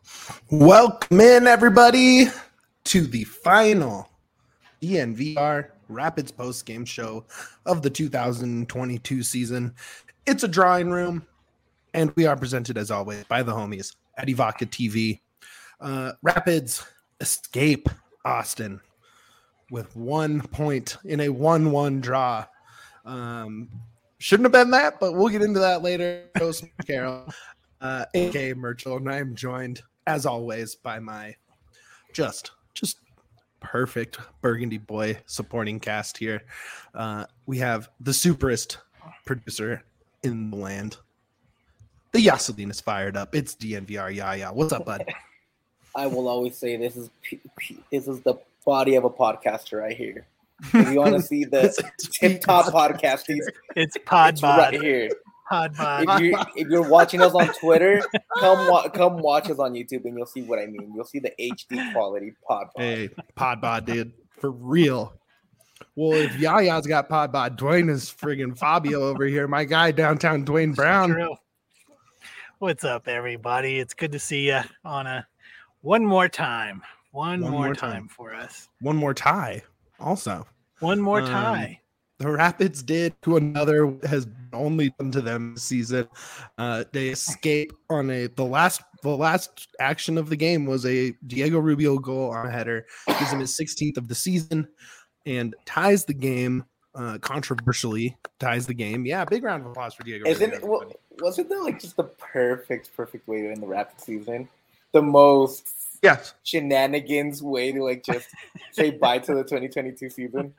Welcome in, everybody, to the final DNVR Rapids post-game show of the 2022 season. It's a drawing room, and we are presented, as always, by the homies at Evoca TV. Rapids escape Austin with 1 point in a 1-1 draw. Shouldn't have been that, but we'll get into that later. Host Carol, a.k.a. Murchel, and I'm joined, as always, by my just perfect Burgundy boy supporting cast here. We have the superest producer in the land. The Yaseline is fired up. It's DNVR Yaya. What's up, bud? I will always say this is the body of a podcaster right here. If you want to see the tip-top podcast, it's Pod right here. Pod. If you're watching us on Twitter, come watch us on YouTube, and you'll see what I mean. You'll see the HD quality pod. Hey, pod, dude, for real. Well, if Yaya's got pod, Dwayne is friggin' Fabio over here. My guy downtown, Dwayne Brown. True. What's up, everybody? It's good to see you on one more time. One more time for us. One more tie. Also, one more tie. The Rapids did to another has only done to them this season. They escape on the last action of the game was a Diego Rubio goal on a header, gives him his 16th of the season, and ties the game. Controversially ties the game. Yeah, big round of applause for Diego. Wasn't that like just the perfect way to end the Rapids season? The most shenanigans way to like just say bye to the 2022 season.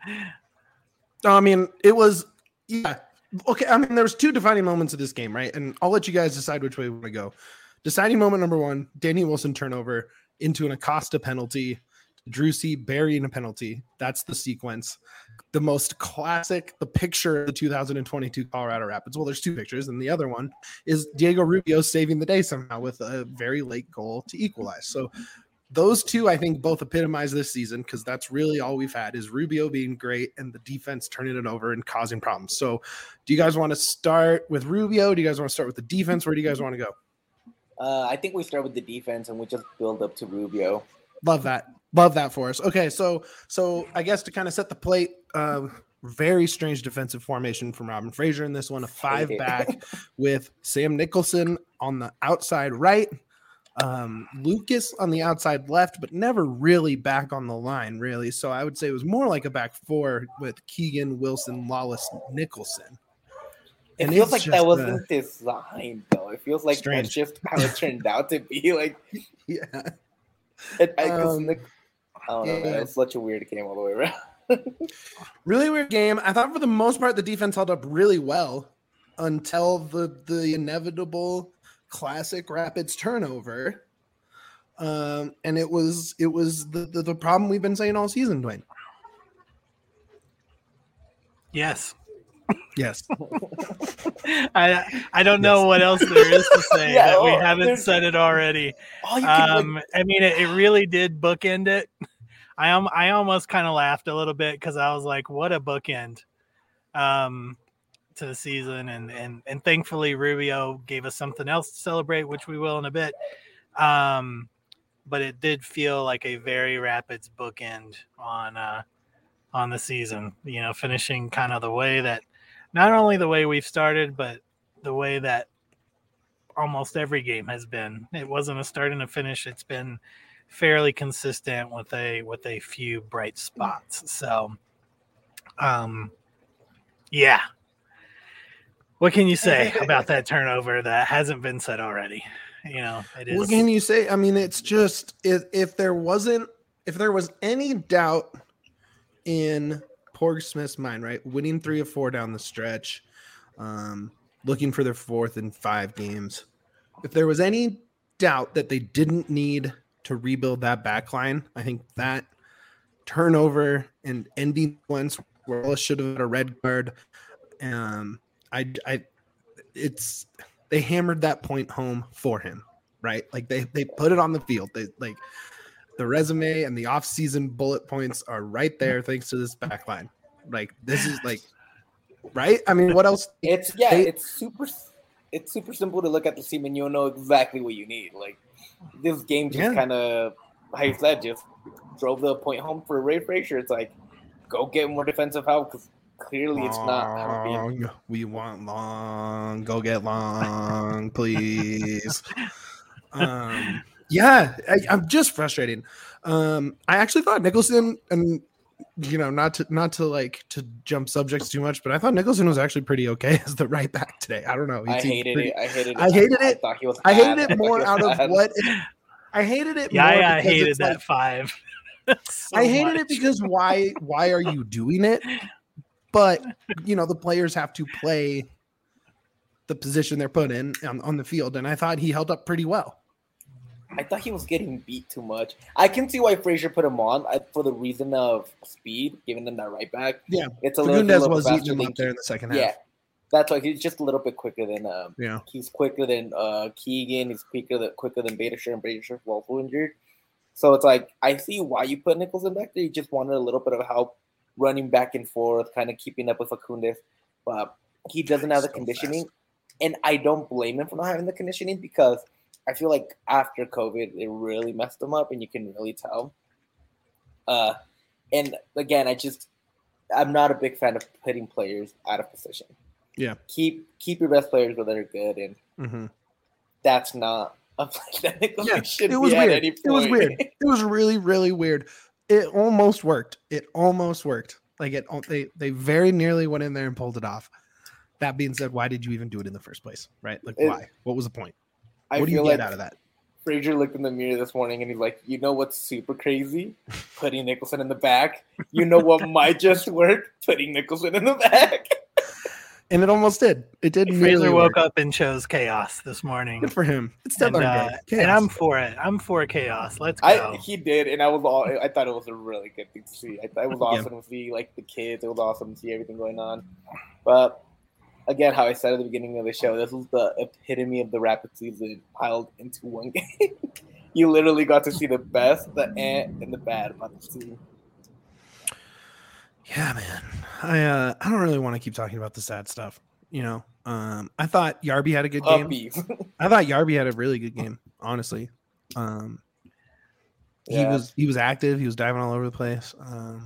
I mean, it was okay. I mean, there was two defining moments of this game, right? And I'll let you guys decide which way we want to go. Deciding moment number one: Danny Wilson turnover into an Acosta penalty. Drusi burying a penalty. That's the sequence. The most classic, the picture of the 2022 Colorado Rapids. Well, there's two pictures, and the other one is Diego Rubio saving the day somehow with a very late goal to equalize. So those two, I think, both epitomize this season because that's really all we've had is Rubio being great and the defense turning it over and causing problems. So do you guys want to start with Rubio? Do you guys want to start with the defense? Where do you guys want to go? I think we start with the defense and we just build up to Rubio. Love that for us. Okay, so I guess to kind of set the plate, very strange defensive formation from Robin Fraser in this one, a 5-back with Sam Nicholson on the outside right, Lucas on the outside left, but never really back on the line, really. So I would say it was more like a back four with Keegan, Wilson, Lawless, Nicholson. It feels like that wasn't designed, though. It feels like strange. That's just how it turned out to be. Like, yeah. I don't know. It's such a weird game all the way around. Really weird game. I thought for the most part the defense held up really well until the inevitable classic Rapids turnover. And it was the problem we've been saying all season, Dwayne. Yes. I don't know what else there is to say that we haven't said it already. I mean, it really did bookend it. I almost kind of laughed a little bit because I was like, what a bookend to the season. And thankfully Rubio gave us something else to celebrate, which we will in a bit. But it did feel like a very Rapids bookend on the season, finishing kind of the way that not only the way we've started, but the way that almost every game has been. It wasn't a start and a finish. It's been fairly consistent with a few bright spots. So, yeah. What can you say about that turnover that hasn't been said already? It is. What can you say? I mean, it's just if there was any doubt in Porg Smith's mind, right? Winning 3 of 4 down the stretch, looking for their 4th in 5 games. If there was any doubt that they didn't need to rebuild that back line, I think that turnover and ending once Wallace should have had a red card. They hammered that point home for him, right? Like they put it on the field. They like the resume and the off-season bullet points are right there thanks to this back line. Like this is like right? I mean, what else? It's super it's super simple to look at the team and you'll know exactly what you need. Like this game just kind of, how you said, just drove the point home for Ray Frazier. It's like, go get more defensive help because clearly it's not helping. We want Long. Go get Long, please. I'm just frustrated. I actually thought Nicholson, and not to like to jump subjects too much, but I thought Nicholson was actually pretty okay as the right back today. I don't know. I hated it. I hated it. I hated it more out of what. I hated it. Yeah, I hated that 5. I hated it because why are you doing it? But the players have to play the position they're put in on the field, and I thought he held up pretty well. I thought he was getting beat too much. I can see why Frazier put him on for the reason of speed, giving them that right back. Yeah, it's a little was eating him up there in the second half. Yeah, that's why he's just a little bit quicker than. He's quicker than Keegan. He's quicker than Beitashour, and Beitashour was also injured. So it's like I see why you put Nicholson back there. You just wanted a little bit of help running back and forth, kind of keeping up with Facundo. But he doesn't have the conditioning, and I don't blame him for not having the conditioning because I feel like after COVID, it really messed him up, and you can really tell. And again, I'm not a big fan of putting players out of position. Yeah, keep your best players where they're good, and that's not a play that should be weird. At any point. It was weird. It was really, really weird. It almost worked. Like they very nearly went in there and pulled it off. That being said, why did you even do it in the first place? Right? Like, why? What was the point? What do you get out of that? Frazier looked in the mirror this morning and he's like, you know what's super crazy? Putting Nicholson in the back. You know what might just work? Putting Nicholson in the back. And it almost did. It did. Frazier woke up and chose chaos this morning. Good for him. It's still and I'm for it. I'm for chaos. Let's go. He did, and I thought it was a really good thing to see. It was awesome to see like the kids. It was awesome to see everything going on. But again, how I said at the beginning of the show, this was the epitome of the Rapid season piled into one game. You literally got to see the best, the and the bad about this team. Yeah, man. I don't really want to keep talking about the sad stuff. I thought Yarby had a good game. I thought Yarby had a really good game, honestly. He was active. He was diving all over the place.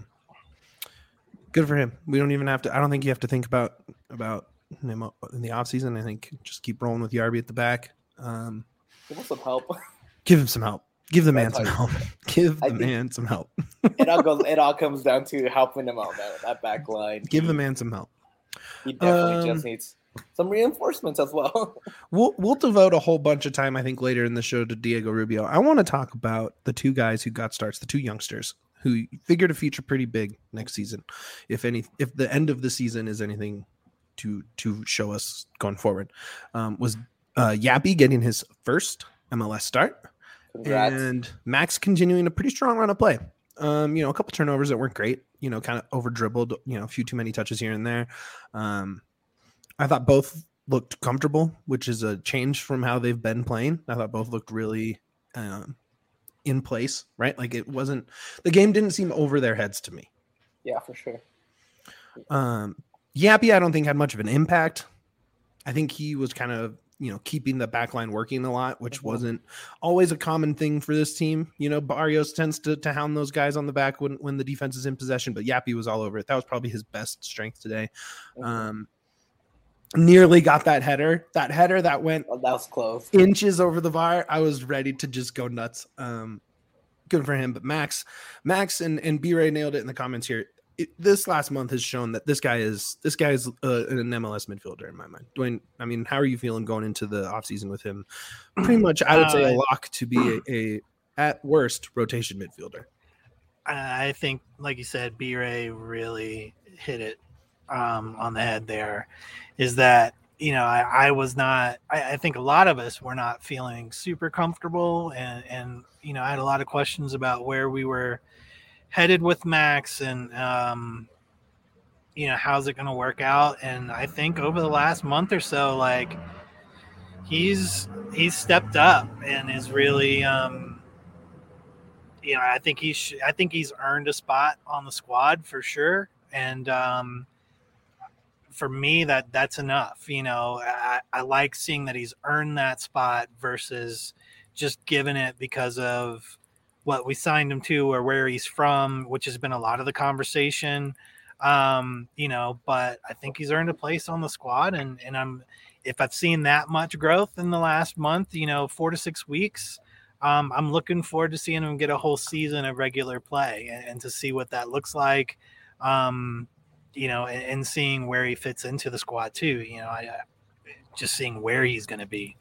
Good for him. We don't even have to. I don't think you have to think about him in the offseason. I think just keep rolling with Yarby at the back. Give him some help. Give him some help. Give the man some help. Give the man some help. It all comes down to helping him out, that back line. Give the man some help. He definitely just needs some reinforcements as well. We'll devote a whole bunch of time, I think, later in the show to Diego Rubio. I want to talk about the two guys who got starts, the two youngsters who figure to feature pretty big next season. If the end of the season is anything to show us going forward, was Yappy getting his first MLS start. Congrats. And Max continuing a pretty strong run of play. A couple turnovers that weren't great, kind of over dribbled, a few too many touches here and there. I thought both looked comfortable, which is a change from how they've been playing. I thought both looked really in place, right? Like the game didn't seem over their heads to me. Yeah, for sure. Yappy, I don't think had much of an impact. I think he was kind of, keeping the back line working a lot, which wasn't always a common thing for this team. Barrios tends to hound those guys on the back when the defense is in possession, but Yappy was all over it. That was probably his best strength today. Nearly got that header that went that was close, inches over the bar. I was ready to just go nuts. Good for him. But Max and B-Ray nailed it in the comments here. This last month has shown that this guy is an MLS midfielder in my mind. Dwayne, I mean, how are you feeling going into the offseason with him? Pretty much, I would say a lock to be a at worst rotation midfielder. I think, like you said, B-Ray really hit it on the head there. Is that, I was not, I think a lot of us were not feeling super comfortable and I had a lot of questions about where we were headed with Max and, how's it going to work out? And I think over the last month or so, like he's stepped up and is really, I think he's earned a spot on the squad for sure. And for me, that's enough. I like seeing that he's earned that spot versus just giving it because of what we signed him to or where he's from, which has been a lot of the conversation. But I think he's earned a place on the squad, and if I've seen that much growth in the last month, 4 to 6 weeks, I'm looking forward to seeing him get a whole season of regular play and to see what that looks like. And seeing where he fits into the squad too. Just seeing where he's going to be.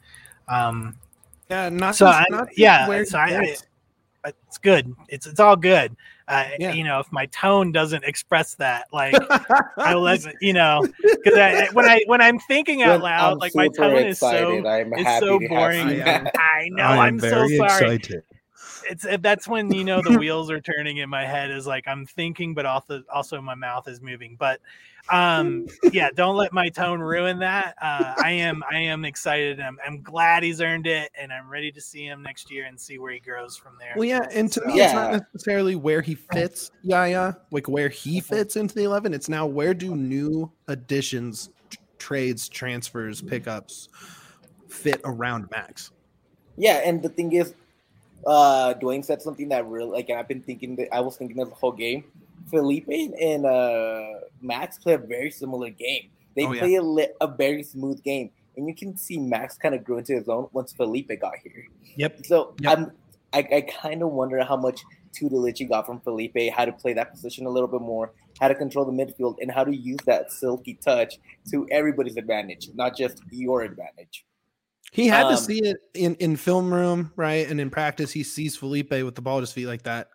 It's good. It's all good. If my tone doesn't express that, like I'll let because when I'm thinking out loud, like my tone is so boring. I know. I'm so sorry. Excited. That's when the wheels are turning in my head. Is like I'm thinking, but also my mouth is moving. But don't let my tone ruin that. I am excited. I'm glad he's earned it, and I'm ready to see him next year and see where he grows from there. Well, and to me, it's not necessarily where he fits. Like where he fits into the 11. It's now where do new additions, trades, transfers, pickups fit around Max. Yeah, and the thing is, Dwayne said something that really, like, I was thinking of the whole game. Felipe and Max play a very similar game. They play a very smooth game, and you can see Max kind of grew into his own once Felipe got here. Yep. So I kind of wonder how much tutelage he got from Felipe, how to play that position a little bit more, how to control the midfield, and how to use that silky touch to everybody's advantage, not just your advantage. He had to see it in film room, right? And in practice, he sees Felipe with the ball at his feet like that.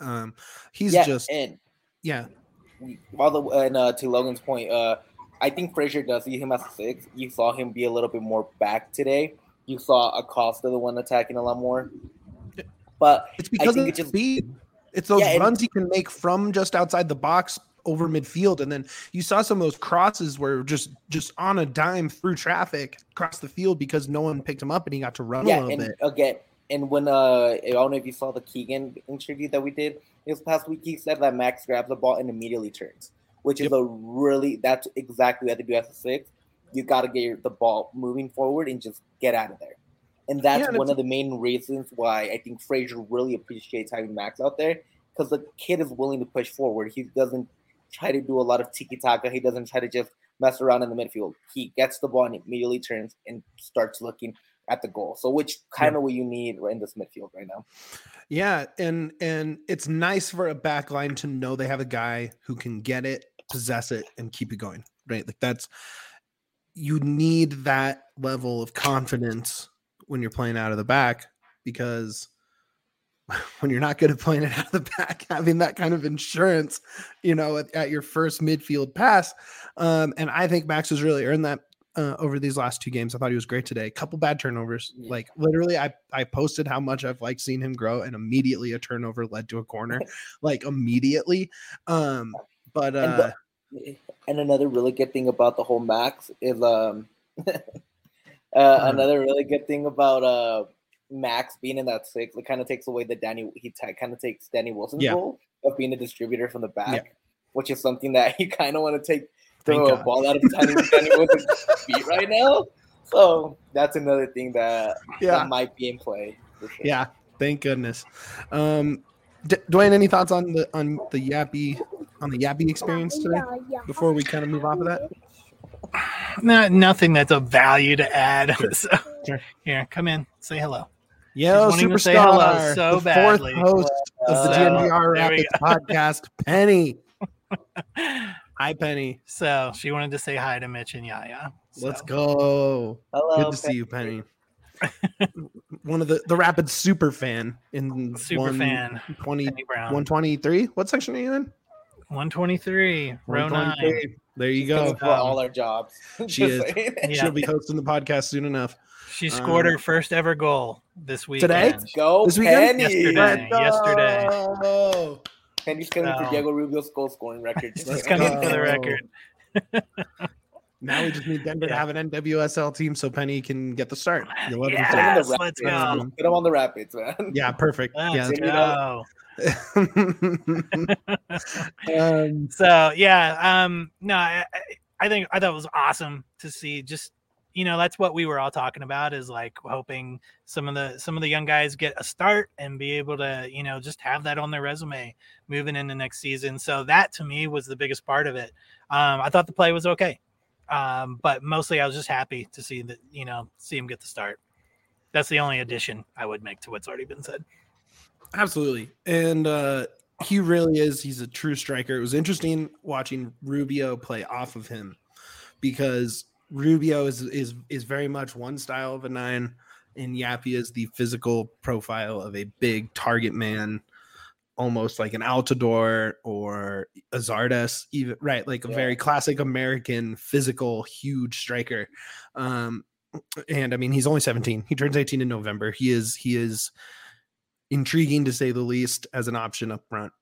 To Logan's point, I think Frazier does see him as a 6. You saw him be a little bit more back today. You saw Acosta, the one attacking a lot more. But it's because of speed. It's those runs he can make from just outside the box over midfield, and then you saw some of those crosses where just on a dime through traffic across the field because no one picked him up and he got to run a little bit. Again, and when I don't know if you saw the Keegan interview that we did this past week, he said that Max grabs the ball and immediately turns, which is that's exactly what you have to do as a 6. You got to get the ball moving forward and just get out of there. And that's one of the main reasons why I think Frazier really appreciates having Max out there, because the kid is willing to push forward. He doesn't try to do a lot of tiki-taka. He doesn't try to just mess around in the midfield. He gets the ball and immediately turns and starts looking at the goal. So which kind of what you need in this midfield right now. Yeah, and it's nice for a back line to know they have a guy who can get it, possess it, and keep it going, right? Like you need that level of confidence when you're playing out of the back, because when you're not good at playing it out of the back, having that kind of insurance, at your first midfield pass. And I think Max has really earned that over these last 2 games. I thought he was great today. A couple bad turnovers. Yeah. Like literally I posted how much I've liked seeing him grow, and immediately a turnover led to a corner, like immediately. And another really good thing about the whole Max is another really good thing about Max being in that 6, it kind of takes away Danny Wilson's role of being a distributor from the back, which is something that you kind of want to throw a ball out of Danny Wilson's feet right now. So that's another thing that might be in play. For sure. Yeah, thank goodness. Dwayne, any thoughts on the Yappy experience today before we kind of move off of that? Nothing that's of value to add. So, here, come in, say hello. Yo, superstar, so the badly. 4th host of the GNVR Rapids podcast, Penny. Hi, Penny. So she wanted to say hi to Mitch and Yaya. So. Let's go. Hello, good to see you, Penny. One of the Rapids super fan in 123. What section are you in? 123, row 9. There you go. For all our jobs. She is. She'll be hosting the podcast soon enough. She scored her first ever goal this week. Today? Go, this Penny. Yesterday. Penny's coming for Diego Rubio's goal scoring record. She's coming for the record. Now we just need Denver to have an NWSL team so Penny can get the start. Yes, let's go. Get him on the Rapids, man. Yeah, perfect. Let's go. I thought it was awesome to see. Just, that's what we were all talking about, is like hoping some of the young guys get a start and be able to, just have that on their resume moving into next season. So that to me was the biggest part of it. I thought the play was okay. But mostly I was just happy to see that, see him get the start. That's the only addition I would make to what's already been said. Absolutely. And he really is. He's a true striker. It was interesting watching Rubio play off of him, because Rubio is very much one style of a 9, and Yappy is the physical profile of a big target man, almost like an Altidore or a Zardes, even, right? Like a very classic American physical, huge striker. And I mean, he's only 17. He turns 18 in November. He is intriguing to say the least as an option up front.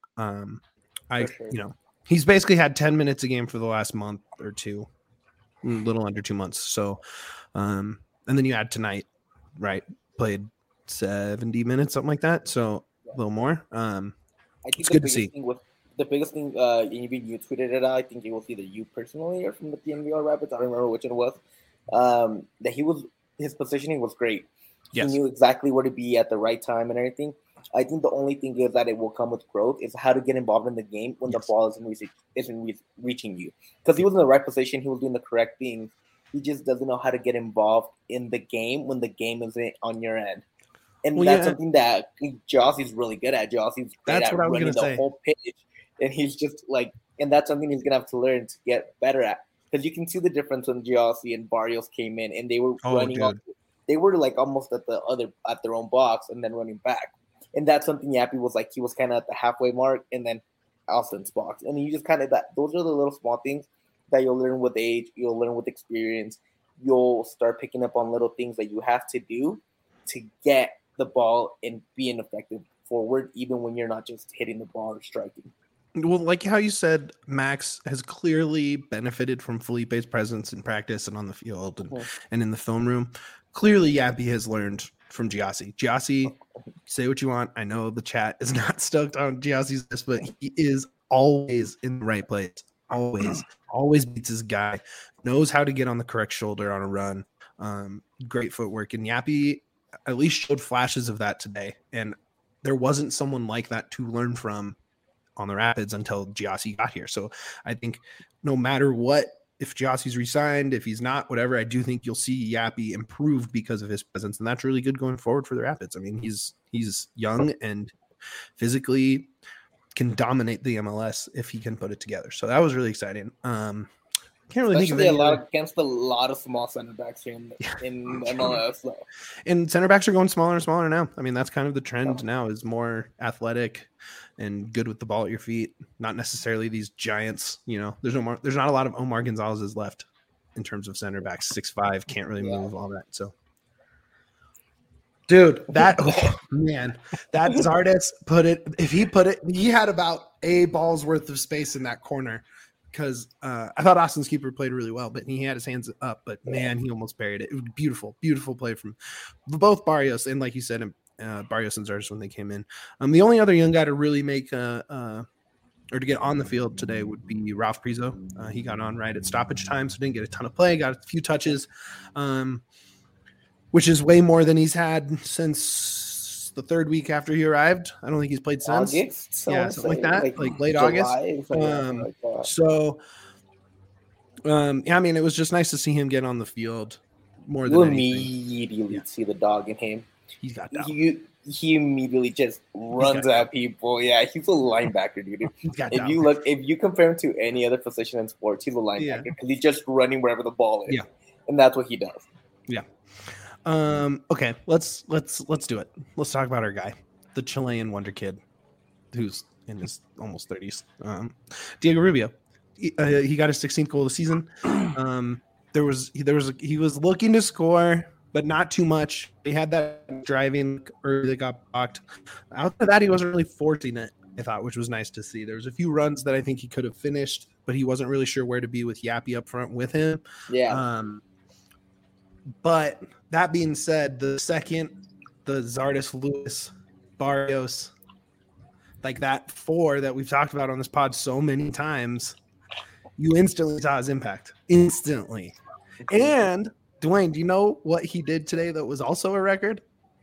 He's basically had 10 minutes a game for the last month or two, a little under 2 months. So, and then you add tonight, right? Played 70 minutes, something like that. So a little more. I think it's good to see. The biggest thing, you tweeted it out. I think it was either you personally or from the DNVR Rapids. I don't remember which it was. That his positioning was great. Yes. He knew exactly where to be at the right time and everything. I think the only thing is that it will come with growth is how to get involved in the game when the ball isn't reaching you. Because he was in the right position, he was doing the correct things. He just doesn't know how to get involved in the game when the game isn't on your end. And that's something that Jossie's really good at. Jossie's great at running the whole pitch. And he's just like, and that's something he's going to have to learn to get better at. Because you can see the difference when Jossie and Barrios came in and they were running up. They were like almost at their own box and then running back. And that's something Yappy was like. He was kind of at the halfway mark and then Austin's box. And you just kind of those are the little small things that you'll learn with age. You'll learn with experience. You'll start picking up on little things that you have to do to get the ball and be an effective forward, even when you're not just hitting the ball or striking. Well, like how you said, Max has clearly benefited from Felipe's presence in practice and on the field and in the film room. Clearly, Yappy has learned from Gyasi. Gyasi, say what you want. I know the chat is not stoked on Gyasi's this, but he is always in the right place. Always beats his guy. Knows how to get on the correct shoulder on a run. Great footwork. And Yappy at least showed flashes of that today. And there wasn't someone like that to learn from on the Rapids until Gyasi got here. So I think no matter what, if Gyasi's resigned, if he's not, whatever, I do think you'll see Yappy improve because of his presence. And that's really good going forward for the Rapids. I mean, he's young and physically can dominate the MLS if he can put it together. So that was really exciting. Can't really think of any against a lot of small center backs here in MLS. Though. And center backs are going smaller and smaller now. I mean, that's kind of the trend now, is more athletic and good with the ball at your feet. Not necessarily these giants. There's not a lot of Omar Gonzalez's left in terms of center backs. 6'5", can't really move all that. So, dude, that Zardes he had about a ball's worth of space in that corner. Because I thought Austin's keeper played really well, but he had his hands up. But, man, he almost buried it. It was beautiful, beautiful play from both Barrios and, like you said, Barrios and Zardes when they came in. The only other young guy to really make or to get on the field today would be Ralph Prizo. He got on right at stoppage time, so didn't get a ton of play, got a few touches, which is way more than he's had since the third week after he arrived. I don't think he's played since. August, something like that, like late July, August. I mean, it was just nice to see him get on the field more than anything. Immediately see the dog in him. He's got that. He immediately just runs at people. Yeah, he's a linebacker, dude. If you compare him to any other position in sports, he's a linebacker because he's just running wherever the ball is. Yeah, and that's what he does. Yeah. Okay, let's do it. Let's talk about our guy, the Chilean wonder kid, who's in his almost 30s. Diego Rubio. He got his 16th goal of the season. He was looking to score, but not too much. He had that driving early that got blocked. After that, he wasn't really forcing it, I thought, which was nice to see. There was a few runs that I think he could have finished, but he wasn't really sure where to be with Yappy up front with him. Yeah. But that being said, the Zardes, Lewis, Barrios, like that four that we've talked about on this pod so many times, you instantly saw his impact. Instantly. And Dwayne, do you know what he did today that was also a record?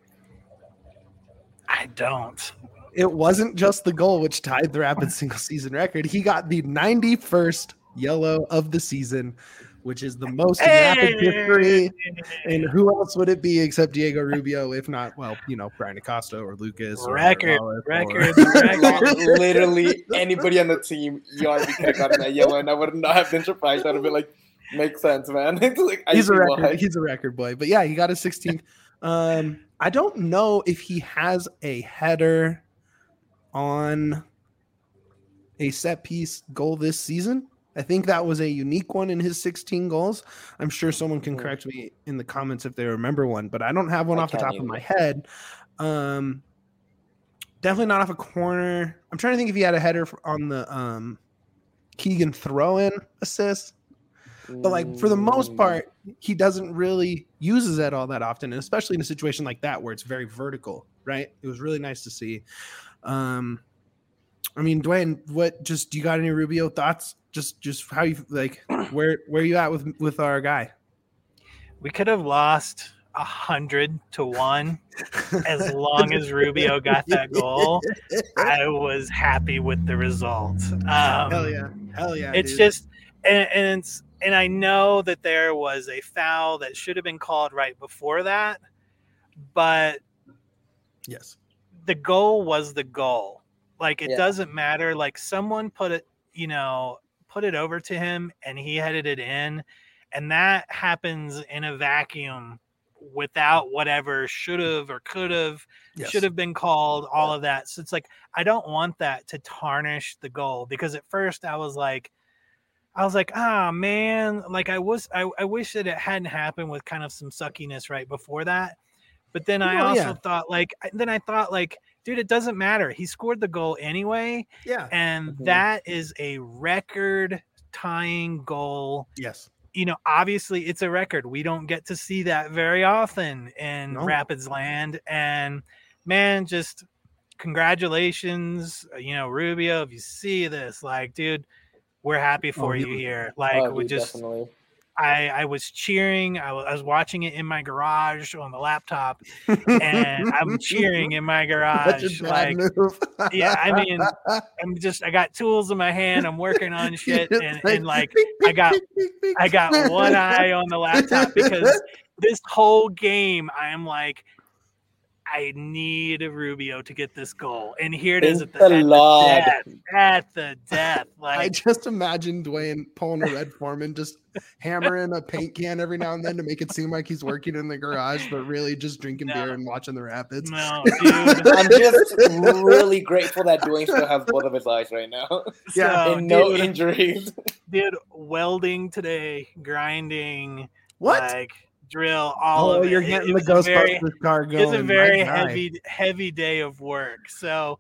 I don't. It wasn't just the goal which tied the Rapids single season record. He got the 91st yellow of the season, which is the most in Rapids history. And who else would it be except Diego Rubio, if not, well, Brian Acosta or Lucas. Record. Literally anybody on the team, ERB could have gotten that yellow, and I would not have been surprised. I'd have been like, makes sense, man. It's like, he's a record boy. But yeah, he got his 16th. I don't know if he has a header on a set piece goal this season. I think that was a unique one in his 16 goals. I'm sure someone can correct me in the comments if they remember one, but I don't have one off the top of my head. Definitely not off a corner. I'm trying to think if he had a header on the Keegan throw-in assist. But like for the most part, he doesn't really uses it all that often, and especially in a situation like that where it's very vertical, right? It was really nice to see. I mean, Dwayne, do you got any Rubio thoughts? Just how you like where you at with our guy? We could have lost 100-1 as long as Rubio got that goal. I was happy with the result. Hell yeah. It's just and I know that there was a foul that should have been called right before that, but yes, the goal was the goal. Like it doesn't matter. Like someone put it over to him and he headed it in, and that happens in a vacuum without whatever should have or could have should have been called, all of that. So it's like I don't want that to tarnish the goal, because at first I was like, ah, man, like I wish that it hadn't happened with kind of some suckiness right before that. But then I thought like, dude, it doesn't matter. He scored the goal anyway. Yeah. And that is a record tying goal. Yes. Obviously it's a record. We don't get to see that very often in Rapids land. And man, just congratulations, Rubio, if you see this, like, dude, we're happy for you here. Like we just, definitely. I was cheering. I was watching it in my garage on the laptop, and I'm cheering in my garage. Like, yeah, I mean, I got tools in my hand. I'm working on shit, and like, I got one eye on the laptop, because this whole game, I am like, I need Rubio to get this goal, and here it is at the death. Like, I just imagine Dwayne pulling a Red Foreman, just hammering a paint can every now and then to make it seem like he's working in the garage, but really just drinking beer and watching the Rapids. No, dude. I'm just really grateful that Dwayne still has both of his eyes right now. Yeah, and no injuries. Dude, welding today, grinding, what? Like, drill, all of it. You're getting the Ghostbusters car going. It's a very heavy day of work. So,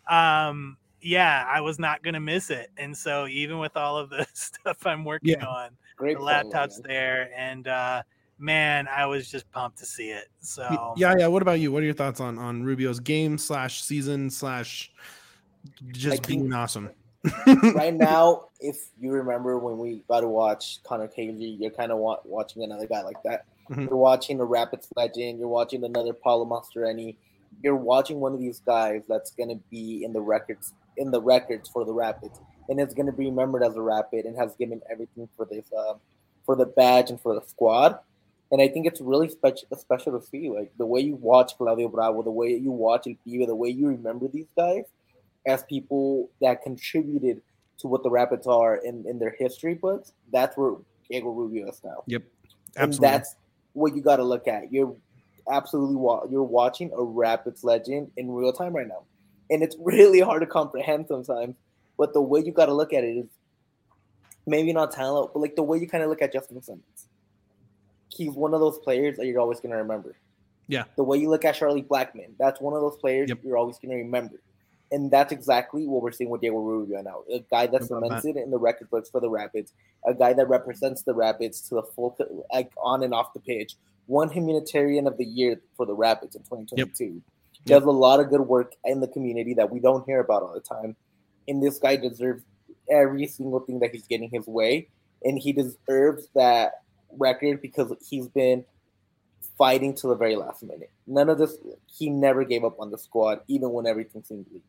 I was not going to miss it. And so even with all of the stuff I'm working on, the laptop's there. And, man, I was just pumped to see it. So yeah. What about you? What are your thoughts on Rubio's game / season / just being awesome? Right now, if you remember when we got to watch Connor Cagley, you're kind of watching another guy like that. Mm-hmm. You're watching a Rapids legend. You're watching another Paulo Mastroeni. You're watching one of these guys that's going to be in the records for the Rapids, and it's going to be remembered as a Rapid and has given everything for this, for the badge and for the squad. And I think it's really special to see, like the way you watch Claudio Bravo, the way you watch El Pibe, the way you remember these guys as people that contributed to what the Rapids are in their history books. That's where Diego Rubio is now. Yep, absolutely. And that's what you got to look at. You're watching a Rapids legend in real time right now, and it's really hard to comprehend sometimes. But the way you got to look at it is maybe not talent, but like the way you kind of look at Justin Simmons. He's one of those players that you're always going to remember. Yeah. The way you look at Charlie Blackman, that's one of those players you're always going to remember. And that's exactly what we're seeing with Diego Rubio now. A guy that's cemented in the record books for the Rapids, a guy that represents the Rapids to the full, like on and off the pitch. Won Humanitarian of the Year for the Rapids in 2022. Does a lot of good work in the community that we don't hear about all the time. And this guy deserves every single thing that he's getting his way, and he deserves that record because he's been fighting to the very last minute. None of this, he never gave up on the squad, even when everything seemed bleak.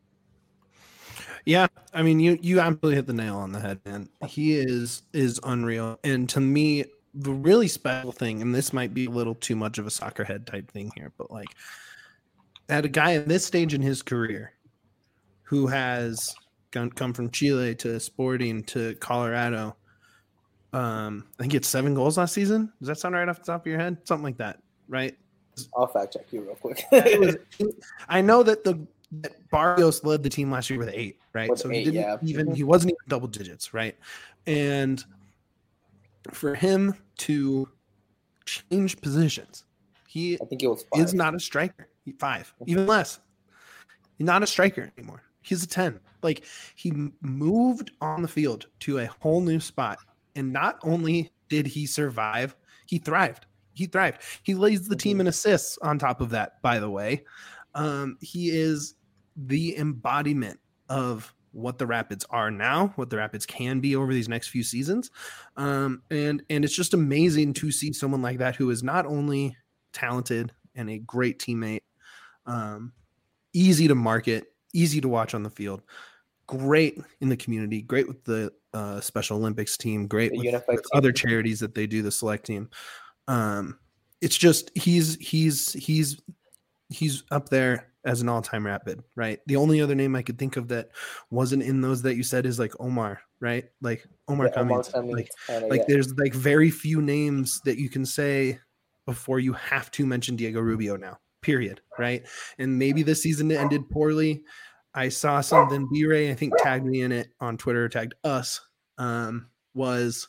Yeah, I mean, you absolutely hit the nail on the head, man. He is unreal, and to me, the really special thing, and this might be a little too much of a soccer head type thing here, but like, at a guy at this stage in his career, who has come from Chile to Sporting to Colorado. I think it's 7 goals last season. Does that sound right off the top of your head? Something like that, right? I'll fact check you real quick. I know that that Barrios led the team last year with 8, right? With so 8, he wasn't even double digits, right? And for him to change positions, I think it was 5. Is not a striker. 5, even less. He's not a striker anymore. He's a 10. Like, he moved on the field to a whole new spot. And not only did he survive, he thrived. He leads the team in assists on top of that, by the way. He is the embodiment of what the Rapids are now, what the Rapids can be over these next few seasons. And it's just amazing to see someone like that who is not only talented and a great teammate, easy to market, easy to watch on the field, great in the community, great with the Special Olympics team, great with other charities that they do, the select team. It's just he's up there as an all-time Rapid, right? The only other name I could think of that wasn't in those that you said is like Omar, right? Like Omar Cummings. There's like very few names that you can say before you have to mention Diego Rubio now, period, right? And maybe this season it ended poorly. I saw something, B-Ray, I think, tagged me in it on Twitter, tagged us, was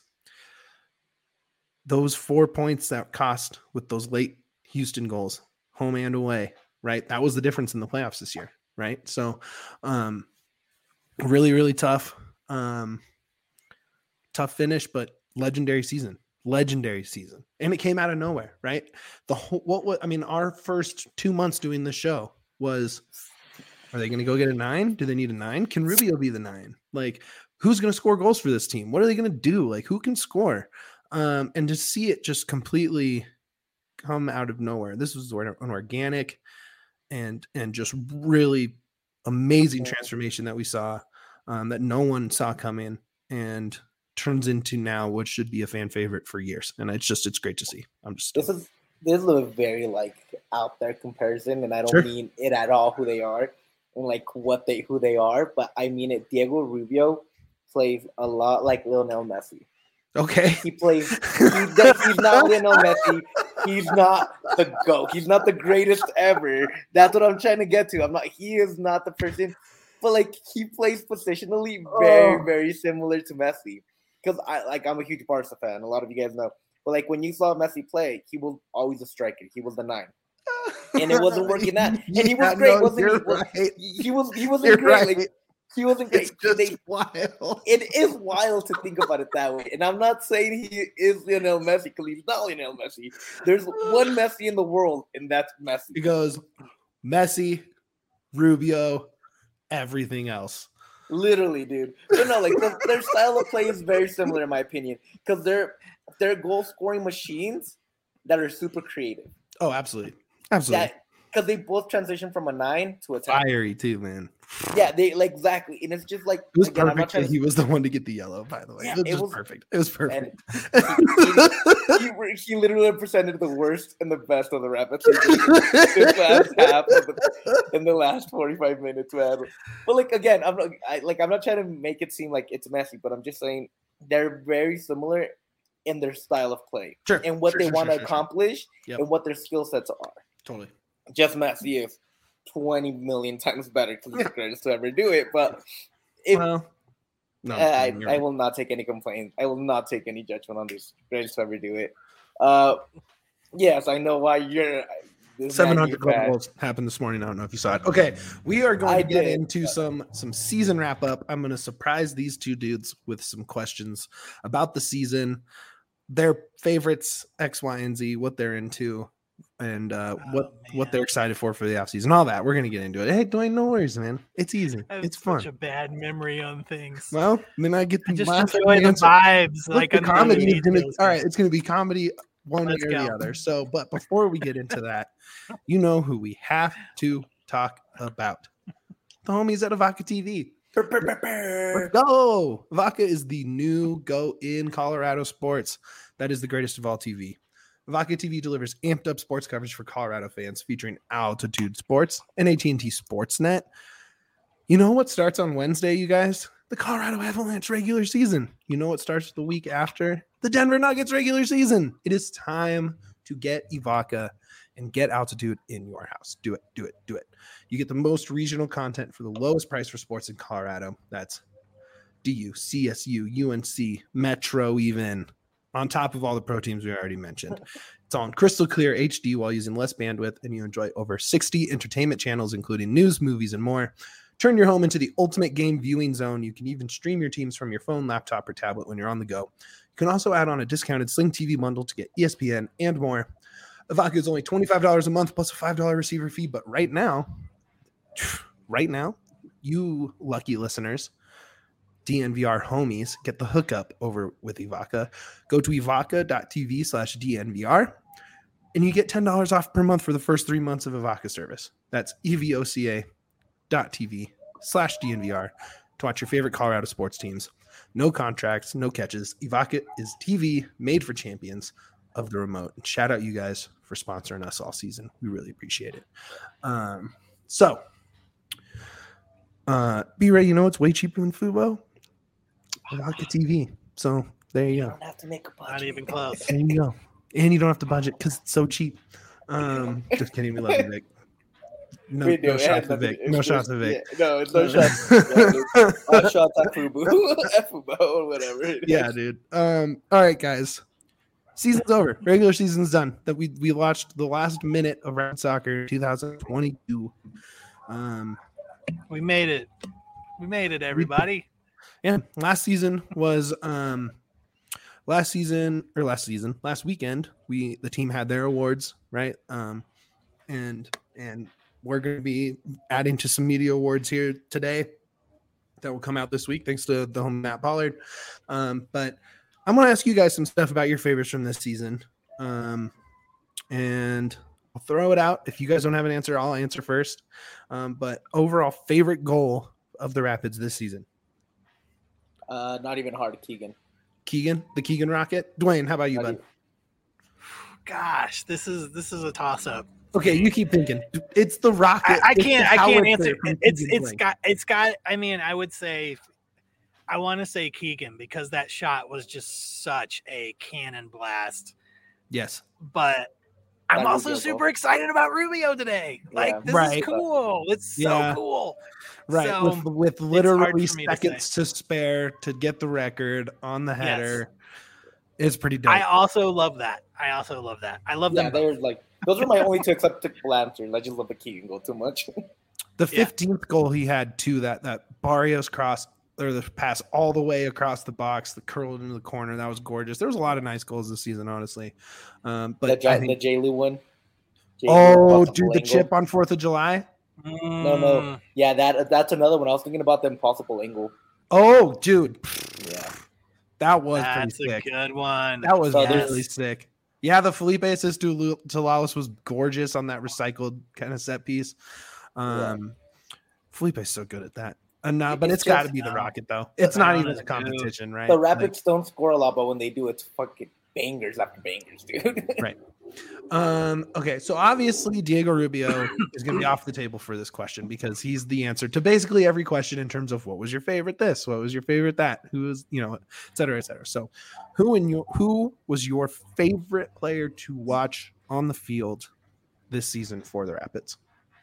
those 4 points that cost with those late Houston goals, home and away, right? That was the difference in the playoffs this year, right? So really, really tough finish, but legendary season. And it came out of nowhere, right? Our first 2 months doing the show was, are they going to go get a 9? Do they need a 9? Can Rubio be the 9? Like, who's going to score goals for this team? What are they going to do? Like, who can score? And to see it just completely come out of nowhere. This was an organic and just really amazing transformation that we saw, that no one saw coming, and turns into now what should be a fan favorite for years. And it's great to see. This is a very out there comparison, and I don't mean it at all who they are and who they are, but I mean it. Diego Rubio plays a lot like Lionel Messi. Okay. He plays. He's not Lionel Messi. He's not the GOAT. He's not the greatest ever. That's what I'm trying to get to. He is not the person, but he plays positionally very, very similar to Messi. Because I'm a huge Barca fan. A lot of you guys know. But when you saw Messi play, he was always a striker. He was the 9. And it wasn't working out. And he was great, wasn't he? He wasn't great. Right. He wasn't great. It's just wild. It is wild to think about it that way. And I'm not saying he is Lionel Messi because he's not Lionel Messi. There's one Messi in the world, and that's Messi. He goes Messi, Rubio, everything else. Literally, dude. But no, their style of play is very similar in my opinion, because they're goal scoring machines that are super creative. Oh, absolutely. Because they both transition from a 9 to a 10. Fiery too, man. Yeah, they exactly, and it's just it was perfect that he was the one to get the yellow. By the way, yeah, it was perfect. It was perfect. He literally represented the worst and the best of the Rapids this last half in the last 45 minutes, man. But again, I'm not trying to make it seem like it's Messi, but I'm just saying they're very similar in their style of play and what they want to accomplish and what their skill sets are. Totally. Just Messi is 20 million times better because he's the greatest to ever do it. But I will not take any complaints. I will not take any judgment on this greatest to ever do it. Yes, I know why you're. 700 goals happened this morning. I don't know if you saw it. Okay, we are going to get into some season wrap up. I'm going to surprise these two dudes with some questions about the season, their favorites, X, Y, and Z, what they're into. what they're excited for the offseason, all that. We're gonna get into it. Hey, Dwayne, no worries, man. It's easy. It's fun. Such a bad memory on things. Well, then I get the just enjoy the vibes. Look, the comedy is gonna, all right, it's gonna be comedy one way or the other. So, but before we get into that, you know who we have to talk about. The homies at Evoca TV. Let's go. Evoca is the new go in Colorado sports. That is the greatest of all TV. Evoca TV delivers amped up sports coverage for Colorado fans featuring Altitude Sports and AT&T Sportsnet. You know what starts on Wednesday, you guys? The Colorado Avalanche regular season. You know what starts the week after? The Denver Nuggets regular season. It is time to get Evoca and get Altitude in your house. Do it, do it, do it. You get the most regional content for the lowest price for sports in Colorado. That's DU, CSU, UNC, Metro even. On top of all the pro teams we already mentioned. It's on crystal clear HD while using less bandwidth, and you enjoy over 60 entertainment channels, including news, movies, and more. Turn your home into the ultimate game viewing zone. You can even stream your teams from your phone, laptop, or tablet when you're on the go. You can also add on a discounted Sling TV bundle to get ESPN and more. Evoca is only $25 a month plus a $5 receiver fee, but right now, you lucky listeners, DNVR homies, get the hookup over with Evoca. Go to evoca.tv/DNVR and you get $10 off per month for the first 3 months of Evoca service. That's evoca.tv/DNVR to watch your favorite Colorado sports teams. No contracts, no catches. Evoca is TV made for champions of the remote. And shout out you guys for sponsoring us all season. We really appreciate it. B-Ray, you know it's way cheaper than Fubo? Evoca TV. So there you go. Don't have to make a budget. Not even close. There you go. And you don't have to budget because it's so cheap. Just kidding. We love you, Vic. No shots at Vic. No shots at Vic. No shots. Shots at Fubo. Fubo or whatever. Yeah, dude. All right, guys. Season's over. Regular season's done. That we watched the last minute of Rapid Soccer 2022. We made it. We made it, everybody. Yeah, last weekend the team had their awards, right? And we're going to be adding to some media awards here today that will come out this week thanks to the home Matt Pollard. But I'm going to ask you guys some stuff about your favorites from this season. And I'll throw it out. If you guys don't have an answer, I'll answer first. But overall favorite goal of the Rapids this season? Not even hard. Keegan, the Keegan Rocket. Dwayne, how about you, bud? Gosh, this is a toss up. Okay, you keep thinking. It's the Rocket. I can't answer. It's got. I mean, I would say, I want to say Keegan because that shot was just such a cannon blast. Yes, but I'm also super excited about Rubio today. Like this is cool. It's so cool. Right, so, with literally seconds to spare to get the record on the header. Yes. It's pretty dope. I also love that. I love them. They're like those are my only two acceptable answers. I just love the Keegan goal too much. The 15th goal he had too, that Barrios cross or the pass all the way across the box, the curled into the corner. That was gorgeous. There was a lot of nice goals this season, honestly. But the J-Lu one. The chip on 4th of July. No. Yeah, that's another one. I was thinking about the impossible angle. Oh, dude. Yeah. That was That's pretty sick. A good one. That was really sick. Yeah, the Felipe assist to Lalas was gorgeous on that recycled kind of set piece. Felipe's so good at that. But it's got to be the Rocket, though. It's not even a competition, right? The Rapids don't score a lot, but when they do, it's fucking bangers after bangers, dude. Right. Okay, so obviously Diego Rubio is going to be off the table for this question because he's the answer to basically every question in terms of what was your favorite this, what was your favorite that, who was, et cetera, et cetera. So who was your favorite player to watch on the field this season for the Rapids?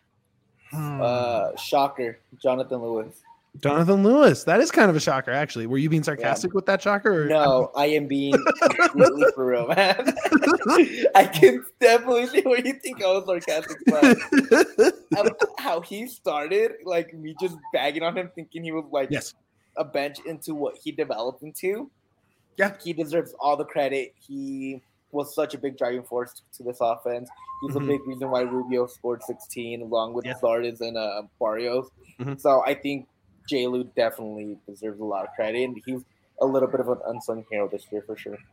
Shocker, Jonathan Lewis. Jonathan Lewis. That is kind of a shocker, actually. Were you being sarcastic with that shocker? Or? No, I am being completely for real, man. I can definitely see where you think I was sarcastic, but how he started, like me just bagging on him, thinking he was like a bench into what he developed into. Yeah, he deserves all the credit. His was such a big driving force to this offense. He's a big reason why Rubio scored 16 along with Zardes and Barrios. So I think J-Lu definitely deserves a lot of credit, and he's a little bit of an unsung hero this year for sure.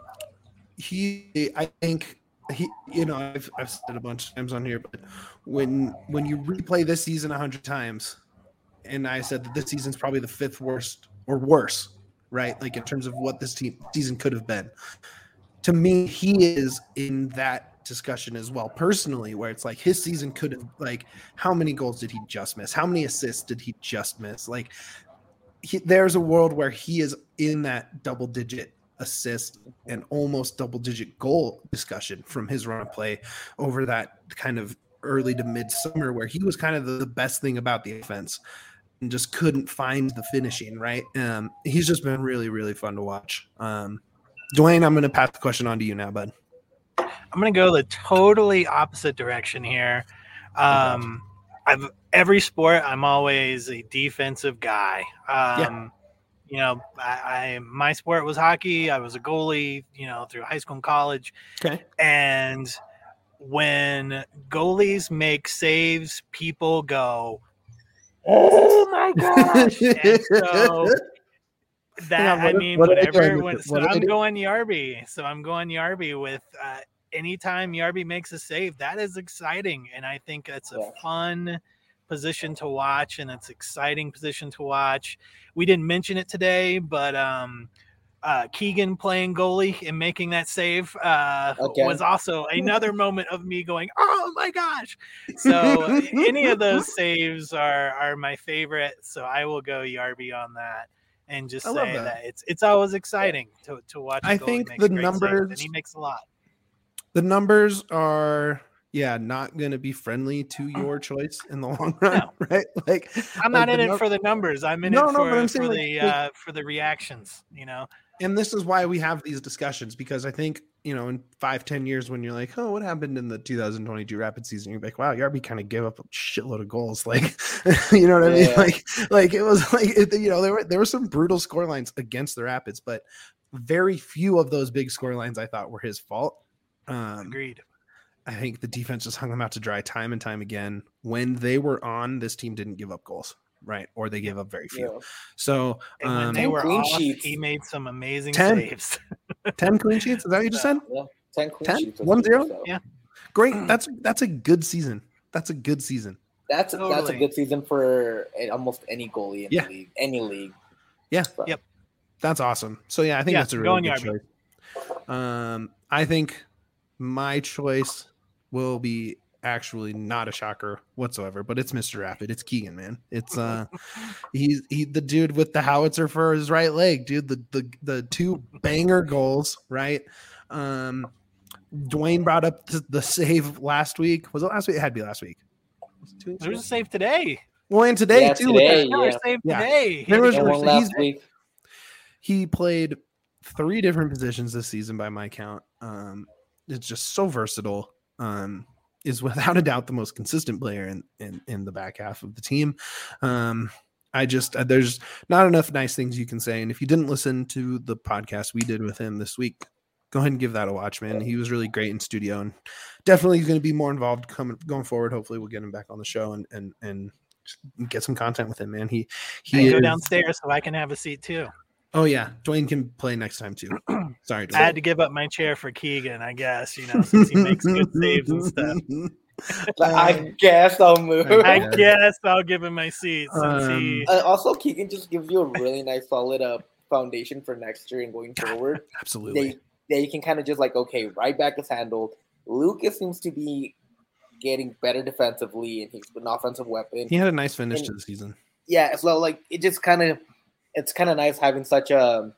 I think I've said it a bunch of times on here, but when you replay this season 100 times, and I said that this season's probably the 5th worst or worse, right? Like in terms of what this season could have been. To me, he is in that discussion as well, personally, where it's like his season could have, like, how many goals did he just miss? How many assists did he just miss? Like, there's a world where he is in that double-digit assist and almost double-digit goal discussion from his run of play over that kind of early to mid-summer, where he was kind of the best thing about the offense and just couldn't find the finishing, right? He's just been really, really fun to watch. Dwayne, I'm going to pass the question on to you now, bud. I'm going to go the totally opposite direction here. Every sport, I'm always a defensive guy. My sport was hockey. I was a goalie, through high school and college. Okay. And when goalies make saves, people go, "Oh my gosh!" And so I'm going Yarby. So I'm going Yarby with anytime Yarby makes a save, that is exciting, and I think it's a fun position to watch, and it's exciting position to watch. We didn't mention it today, but Keegan playing goalie and making that save was also another moment of me going, "Oh my gosh!" So any of those saves are my favorite. So I will go Yarby on that, and just say that it's always exciting to watch. I think the numbers, and he makes a lot. The numbers are not going to be friendly to your choice in the long run, right? Like, I'm not in it for the numbers. I'm in it for the reactions, And this is why we have these discussions, because I think, in 5-10 years, when you're like, oh, what happened in the 2022 Rapid season? You're like, wow, Yarby kind of gave up a shitload of goals. Like, you know what I mean? Like it was like, there were some brutal score lines against the Rapids, but very few of those big score lines I thought were his fault. Agreed. I think the defense just hung them out to dry time and time again. When they were on, this team didn't give up goals, right? Or they gave up very few. Yeah. So when they were off, he made some amazing saves. 10 clean sheets? Is that what you just said? Yeah, 10 clean sheets. 1-0? Yeah. Great. That's a good season. That's a good season. That's a good season for almost any goalie in the league. Any league. Yeah. So. Yep. That's awesome. So I think that's a really good choice. I think my choice will be actually not a shocker whatsoever, but it's Mr. Rapid. It's Keegan, man. It's he's the dude with the howitzer for his right leg, dude. The 2 banger goals, right? Dwayne brought up the save last week. Was it last week? It had to be last week. There was a save today. Well, and today too. Today. There was one last week. He played 3 different positions this season by my count. It's just so versatile. Is without a doubt the most consistent player in the back half of the team. There's not enough nice things you can say. And if you didn't listen to the podcast we did with him this week, go ahead and give that a watch, man. He was really great in studio, and definitely going to be more involved going forward. Hopefully we'll get him back on the show and get some content with him, man. He go downstairs so I can have a seat too. Oh yeah, Dwayne can play next time too. Sorry, Dwayne. I had to give up my chair for Keegan, I guess, since he makes good saves and stuff. I guess I'll move. I guess I'll give him my seat. Also, Keegan just gives you a really nice, solid foundation for next year and going forward. Absolutely. You can kind of just like, okay, right back is handled. Lucas seems to be getting better defensively, and he's an offensive weapon. He had a nice finish to the season. Yeah, so like it just kind of. It's kind of nice having such a.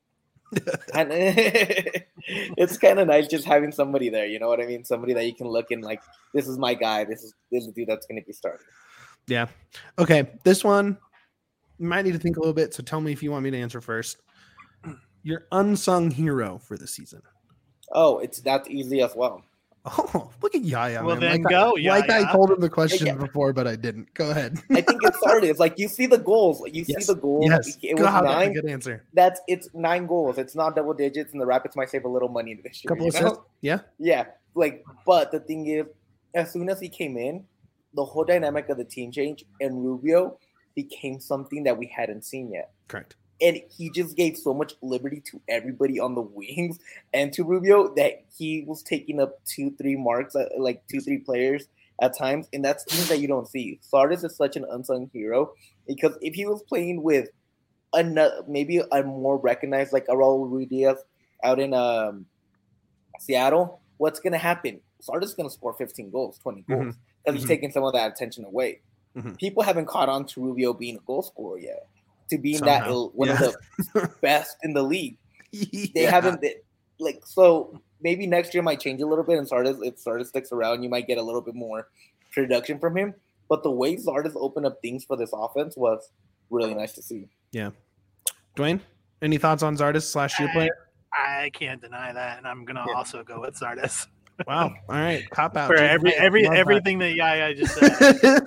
It's kind of nice just having somebody there. You know what I mean? Somebody that you can look in like, this is my guy. This is the dude that's going to be starting. Yeah. Okay. This one you might need to think a little bit. So tell me if you want me to answer first. Your unsung hero for the season. Oh, that's easy as well. Oh, look at Yaya. Well, man. then go, Yaya. Like I told him the question before, but I didn't. Go ahead. I think it started. It's like you see the goals. You see the goals. Yes. It was 9. That's a good answer. It's 9 goals. It's not double digits, and the Rapids might save a little money this year. Couple assists. Yeah. Yeah. Like, but the thing is, as soon as he came in, the whole dynamic of the team changed, and Rubio became something that we hadn't seen yet. Correct. And he just gave so much liberty to everybody on the wings and to Rubio that he was taking up 2-3 marks, like 2-3 players at times. And that's things that you don't see. Sardis is such an unsung hero because if he was playing with maybe a more recognized, like a Raul Ruiz out in Seattle, what's going to happen? Sardis is going to score 15 goals, 20 goals because he's taking some of that attention away. People haven't caught on to Rubio being a goal scorer yet. To being one of the best in the league. They haven't so maybe next year might change a little bit and if Sardis sticks around, you might get a little bit more production from him. But the way Sardis opened up things for this offense was really nice to see. Yeah. Dwayne, any thoughts on Sardis / your player? I can't deny that, and I'm gonna also go with Sardis. Wow. All right. Cop out. For everything that Yaya just said.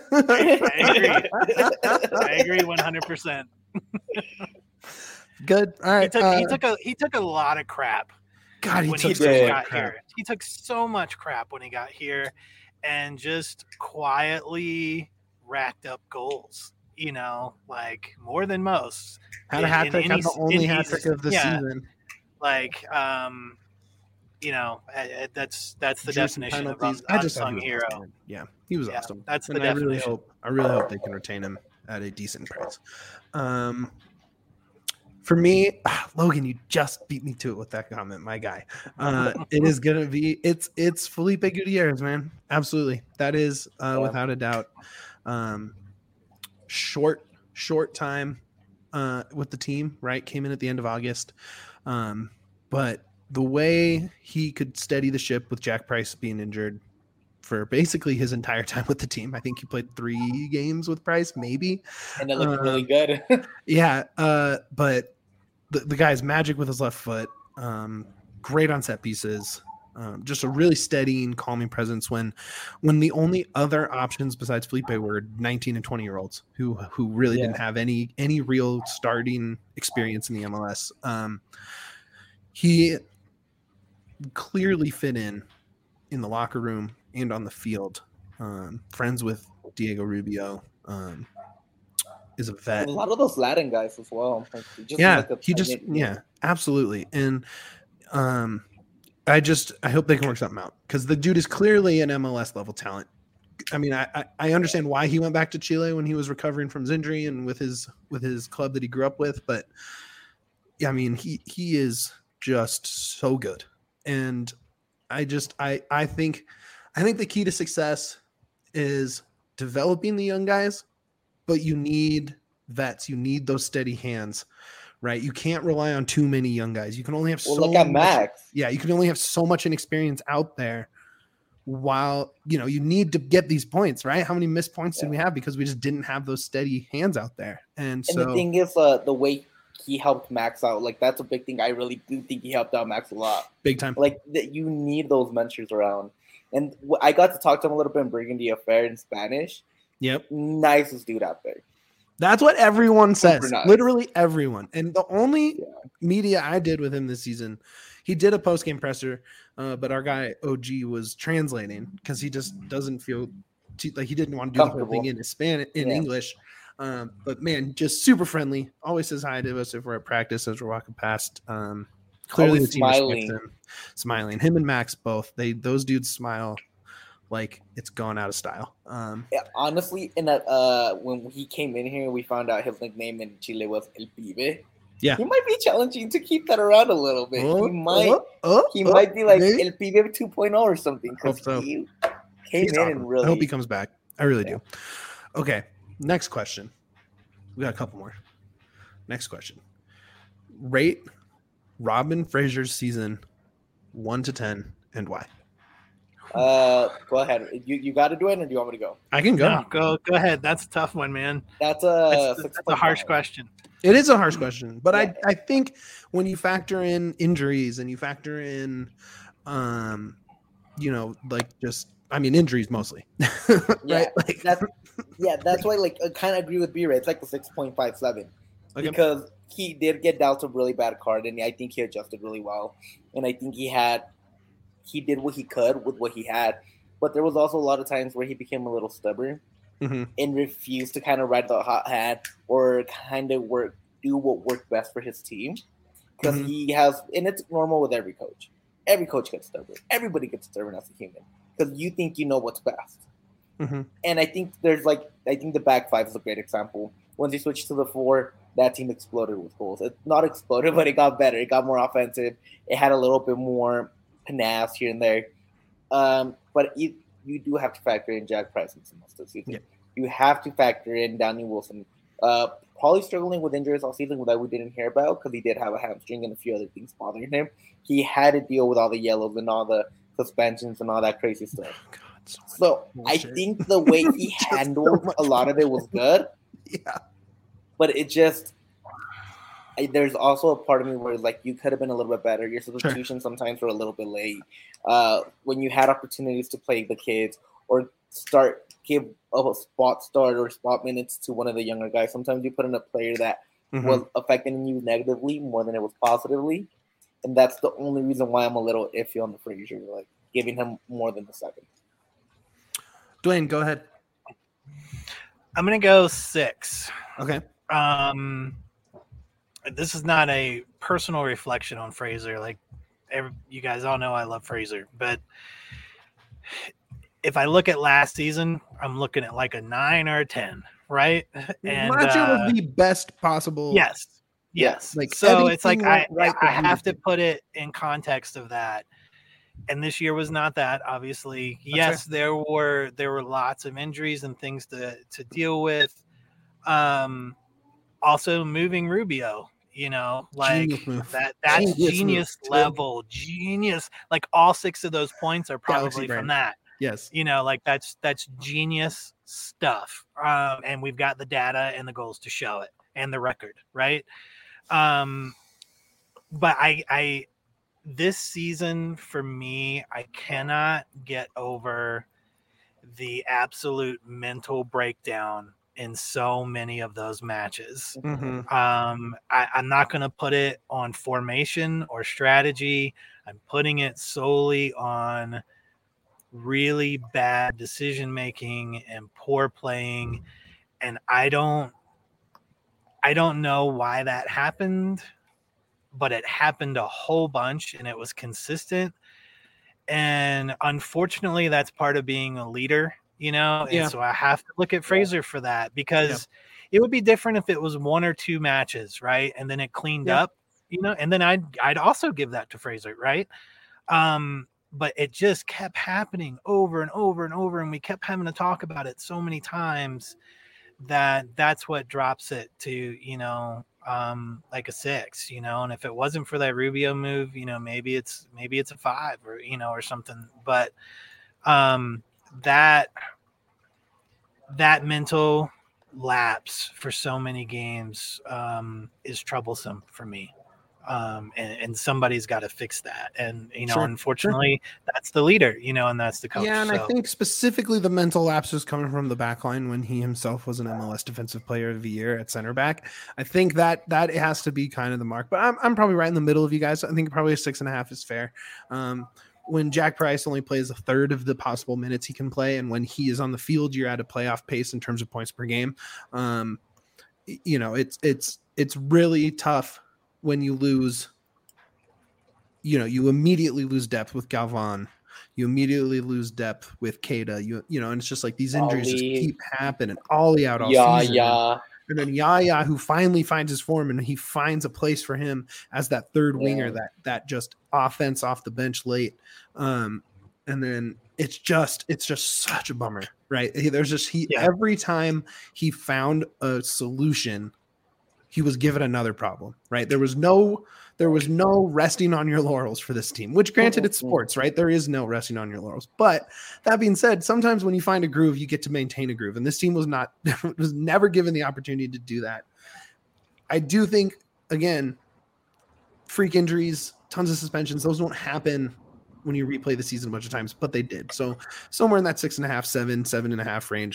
I agree 100%. Good. All right. He took a lot of crap. God, when he got here. He took so much crap when he got here, and just quietly racked up goals. You know, like more than most. Had a hat trick. Had the only hat trick of the season. Like, you know, that's the definition of unsung hero. Awesome. Yeah, he was awesome. That's the definition. I really hope they can retain him at a decent price. For me, Logan, you just beat me to it with that comment, my guy. It is gonna be it's Felipe Gutierrez, man. Absolutely, that is without a doubt. Short time with the team, right? Came in at the end of August, but the way he could steady the ship with Jack Price being injured for basically his entire time with the team. I think he played 3 games with Price, maybe. And it looked really good. Yeah. But the guy's magic with his left foot. Great on set pieces. Just a really steadying, calming presence when the only other options besides Felipe were 19 and 20-year-olds who really didn't have any real starting experience in the MLS. He clearly fit in the locker room and on the field. Friends with Diego Rubio, is a vet. And a lot of those Latin guys as well. Absolutely. And I hope they can work something out because the dude is clearly an MLS level talent. I mean, I understand why he went back to Chile when he was recovering from his injury and with his club that he grew up with, but yeah, I mean, he is just so good. And I think the key to success is developing the young guys, but you need vets. You need those steady hands, right? You can't rely on too many young guys. You can only have look at Max. Yeah, you can only have so much inexperience out there while, you need to get these points, right? How many missed points did we have because we just didn't have those steady hands out there? And so the thing is, the way he helped Max out, like that's a big thing. I really do think he helped out Max a lot. Big time. Like you need those mentors around. And I got to talk to him a little bit in Burgundy Affair in Spanish. Yep. Nicest dude out there. That's what everyone says. Nice. Literally everyone. And the only media I did with him this season, he did a post-game presser, but our guy OG was translating because he just doesn't feel like he didn't want to do the whole thing in English. But man, just super friendly. Always says hi to us if we're at practice as we're walking past. Clearly the team respects him. Smiling. Him and Max both. Those dudes smile like it's gone out of style. Honestly, in that when he came in here, we found out his nickname in Chile was El Pibe. Yeah, he might be challenging to keep that around a little bit. He might be like maybe? El Pibe 2.0 or something. So. He came in and really. I hope he comes back. I really do. Okay, next question. We got a couple more. Next question. Rate Robin Fraser's season 1 to 10 and why? Go ahead. You got to do it, or do you want me to go? I can go. No, go ahead. That's a tough one, man. That's a harsh question. It is a harsh question, but I think when you factor in injuries and you factor in injuries mostly. Yeah, right? That's why I kind of agree with B-Ray. It's like a 6.57 because he did get dealt a really bad card, and I think he adjusted really well, and I think he did what he could with what he had, but there was also a lot of times where he became a little stubborn and refused to kind of ride the hot hand or kind of do what worked best for his team. Because he has, and it's normal with every coach. Every coach gets stubborn. Everybody gets stubborn as a human because you think you know what's best. And I think the back five is a great example. Once he switched to the 4, that team exploded with goals. It's not exploded, but it got better. It got more offensive. It had a little bit more panache here and there. But you do have to factor in Jack Price in most of the season. Yeah. You have to factor in Danny Wilson. Probably struggling with injuries all season that we didn't hear about because he did have a hamstring and a few other things bothering him. He had to deal with all the yellows and all the suspensions and all that crazy stuff. Oh, God, so I think the way he handled a lot of it was good. Yeah. But it just there's also a part of me where you could have been a little bit better. Your substitutions sometimes were a little bit late. When you had opportunities to play the kids or give a spot start or spot minutes to one of the younger guys, sometimes you put in a player that was affecting you negatively more than it was positively. And that's the only reason why I'm a little iffy on the Frazier, giving him more than the second. Dwayne, go ahead. I'm going to go 6. Okay. This is not a personal reflection on Frazier. You guys all know I love Frazier, but if I look at last season, I'm looking at a 9 or a 10, right? And last year was the best possible. Yes. So it's I have to put it in context of that. And this year was not that, obviously. That's there were lots of injuries and things to deal with. Also moving Rubio, that's genius level, genius. All 6 of those points are probably from that. Yes. That's genius stuff. And we've got the data and the goals to show it and the record, right? But I this season for me, I cannot get over the absolute mental breakdown in so many of those matches. I'm not going to put it on formation or strategy. I'm putting it solely on really bad decision making and poor playing. And I don't know why that happened, but it happened a whole bunch and it was consistent. And unfortunately, that's part of being a leader, and so I have to look at Frazier for that because it would be different if it was 1 or 2 matches, right? And then it cleaned up, and then I'd also give that to Frazier, right? But it just kept happening over and over and over, and we kept having to talk about it so many times that's what drops it to, a 6, and if it wasn't for that Rubio move, maybe it's a 5 or, or something, but that mental lapse for so many games is troublesome for me. And somebody's got to fix that. And, unfortunately, that's the leader, and that's the coach. Yeah, and I think specifically the mental lapse was coming from the back line when he himself was an MLS Defensive Player of the Year at center back. I think that has to be kind of the mark. But I'm probably right in the middle of you guys. I think probably a 6.5 is fair. When Jack Price only plays a third of the possible minutes he can play, and when he is on the field, you're at a playoff pace in terms of points per game. It's really tough when you lose. You immediately lose depth with Galvan. You immediately lose depth with Keita. And it's just these injuries just keep happening. Ollie out all season. And then Yaya, who finally finds his form, and he finds a place for him as that third winger, that just offense off the bench late. And then it's just such a bummer, right? Every time he found a solution, he was given another problem, right? There was no resting on your laurels for this team, which granted it's sports, right? There is no resting on your laurels. But that being said, sometimes when you find a groove, you get to maintain a groove. And this team was never given the opportunity to do that. I do think, again, freak injuries, tons of suspensions, those don't happen when you replay the season a bunch of times, but they did. So somewhere in that 6.5, 7.5 range.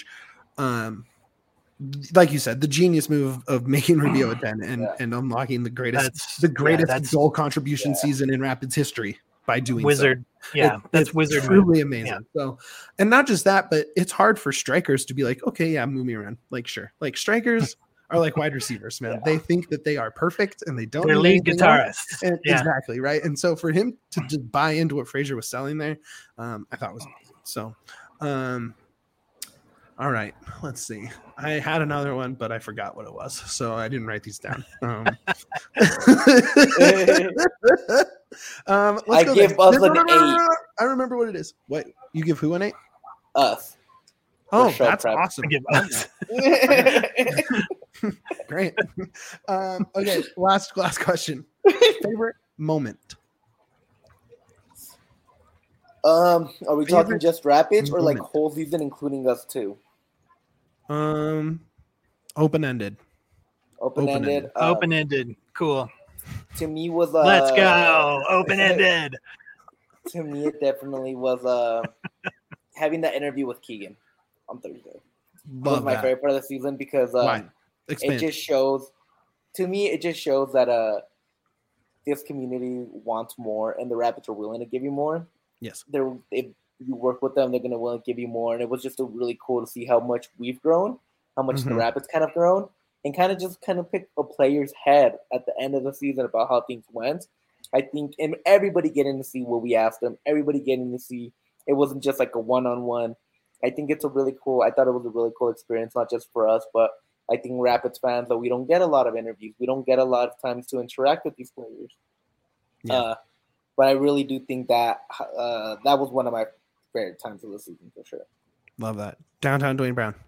Like you said, the genius move of making Rubio a 10 and unlocking the greatest goal contribution season in Rapids history by doing Wizard. So. Yeah, that's Wizard. Truly amazing. Yeah. So, and not just that, but it's hard for strikers to be like, okay, yeah, move me around. Like, sure. Like strikers are like wide receivers, man. Yeah. They think that they are perfect and they don't. They're lead guitarists. Exactly. Right. And so for him to just buy into what Fraser was selling there, I thought was amazing. So, all right, let's see. I had another one, but I forgot what it was, so I didn't write these down. I give us an 8. I remember what it is. What, you give who an 8? Us. Oh, that's awesome. I give us. Great. Okay, last question. Favorite moment? Are we talking just Rapids or like whole season, including us too? Open-ended. Open-ended. Cool. To me was let's go. Open-ended. To me, it definitely was having that interview with Keegan on Thursday. Was my favorite part of the season because it just shows. To me, it just shows that this community wants more, and the Rapids are willing to give you more. Yes, if you work with them, they're going to want to give you more. And it was just really cool to see how much we've grown, how much the Rapids kind of grown, and kind of pick a player's head at the end of the season about how things went. I think, and everybody getting to see what we asked them, everybody getting to see it wasn't just like a one-on-one. I think it's I thought it was a really cool experience, not just for us, but I think Rapids fans, that we don't get a lot of interviews. We don't get a lot of times to interact with these players. Yeah. But I really do think that that was one of my favorite times of the season for sure. Love that. Downtown Dwayne Brown.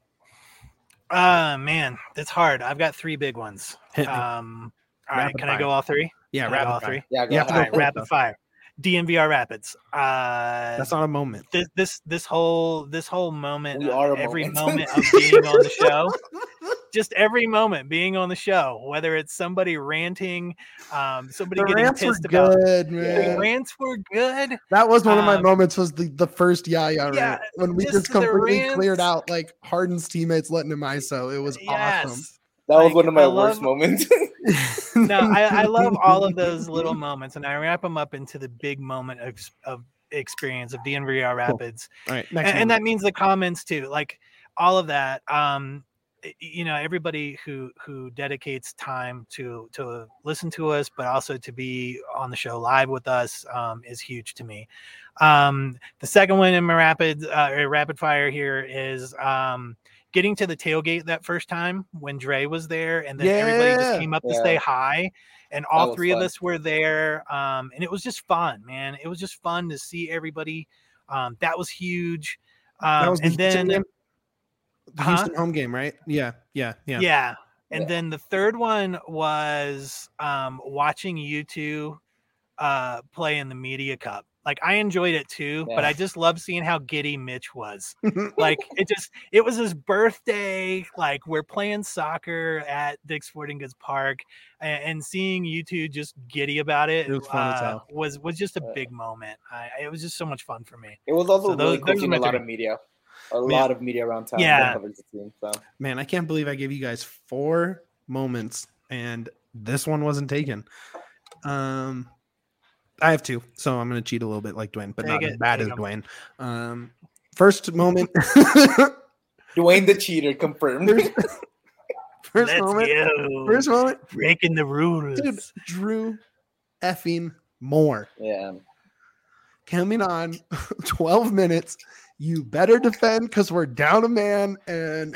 Man, it's hard. I've got 3 big ones. All right, can I go all 3? Yeah, rapid fire. Yeah, all right, rapid fire. DNVR Rapids. That's not a moment. This whole moment, every moment of being on the show. Just every moment being on the show, whether it's somebody ranting, somebody getting pissed about. The rants were good. That was one of my moments. Was the first rant when we just completely cleared out like Harden's teammates letting him ISO. It was awesome. That was one of my worst moments. No, I love all of those little moments, and I wrap them up into the big moment of experience of DNVR Rapids. Cool. All right, and that means the comments too, like all of that. Everybody who dedicates time to listen to us, but also to be on the show live with us is huge to me. The second one in my rapid fire here is getting to the tailgate that first time when Dre was there, and then everybody just came up to say hi, and all 3 of us were there, and it was just fun, man. It was just fun to see everybody. That was huge. And then the Houston home game, right? Yeah. And then the third one was watching you two play in the Media Cup. Like, I enjoyed it too, but I just love seeing how giddy Mitch was. Like, it was his birthday. Like, we're playing soccer at Dick's Sporting Goods Park, and seeing you two just giddy about it was fun as hell. Was just a big moment. It was just so much fun for me. It was also really cool seeing a lot of media. A lot of media around town. Yeah. Man, I can't believe I gave you guys 4 moments and this one wasn't taken. I have 2, so I'm going to cheat a little bit like Dwayne, but not as bad as Dwayne. First moment. Dwayne the cheater confirmed. First moment. Breaking the rules. Dude, Drew effing Moore. Yeah. Coming on 12 minutes. You better defend because we're down a man, and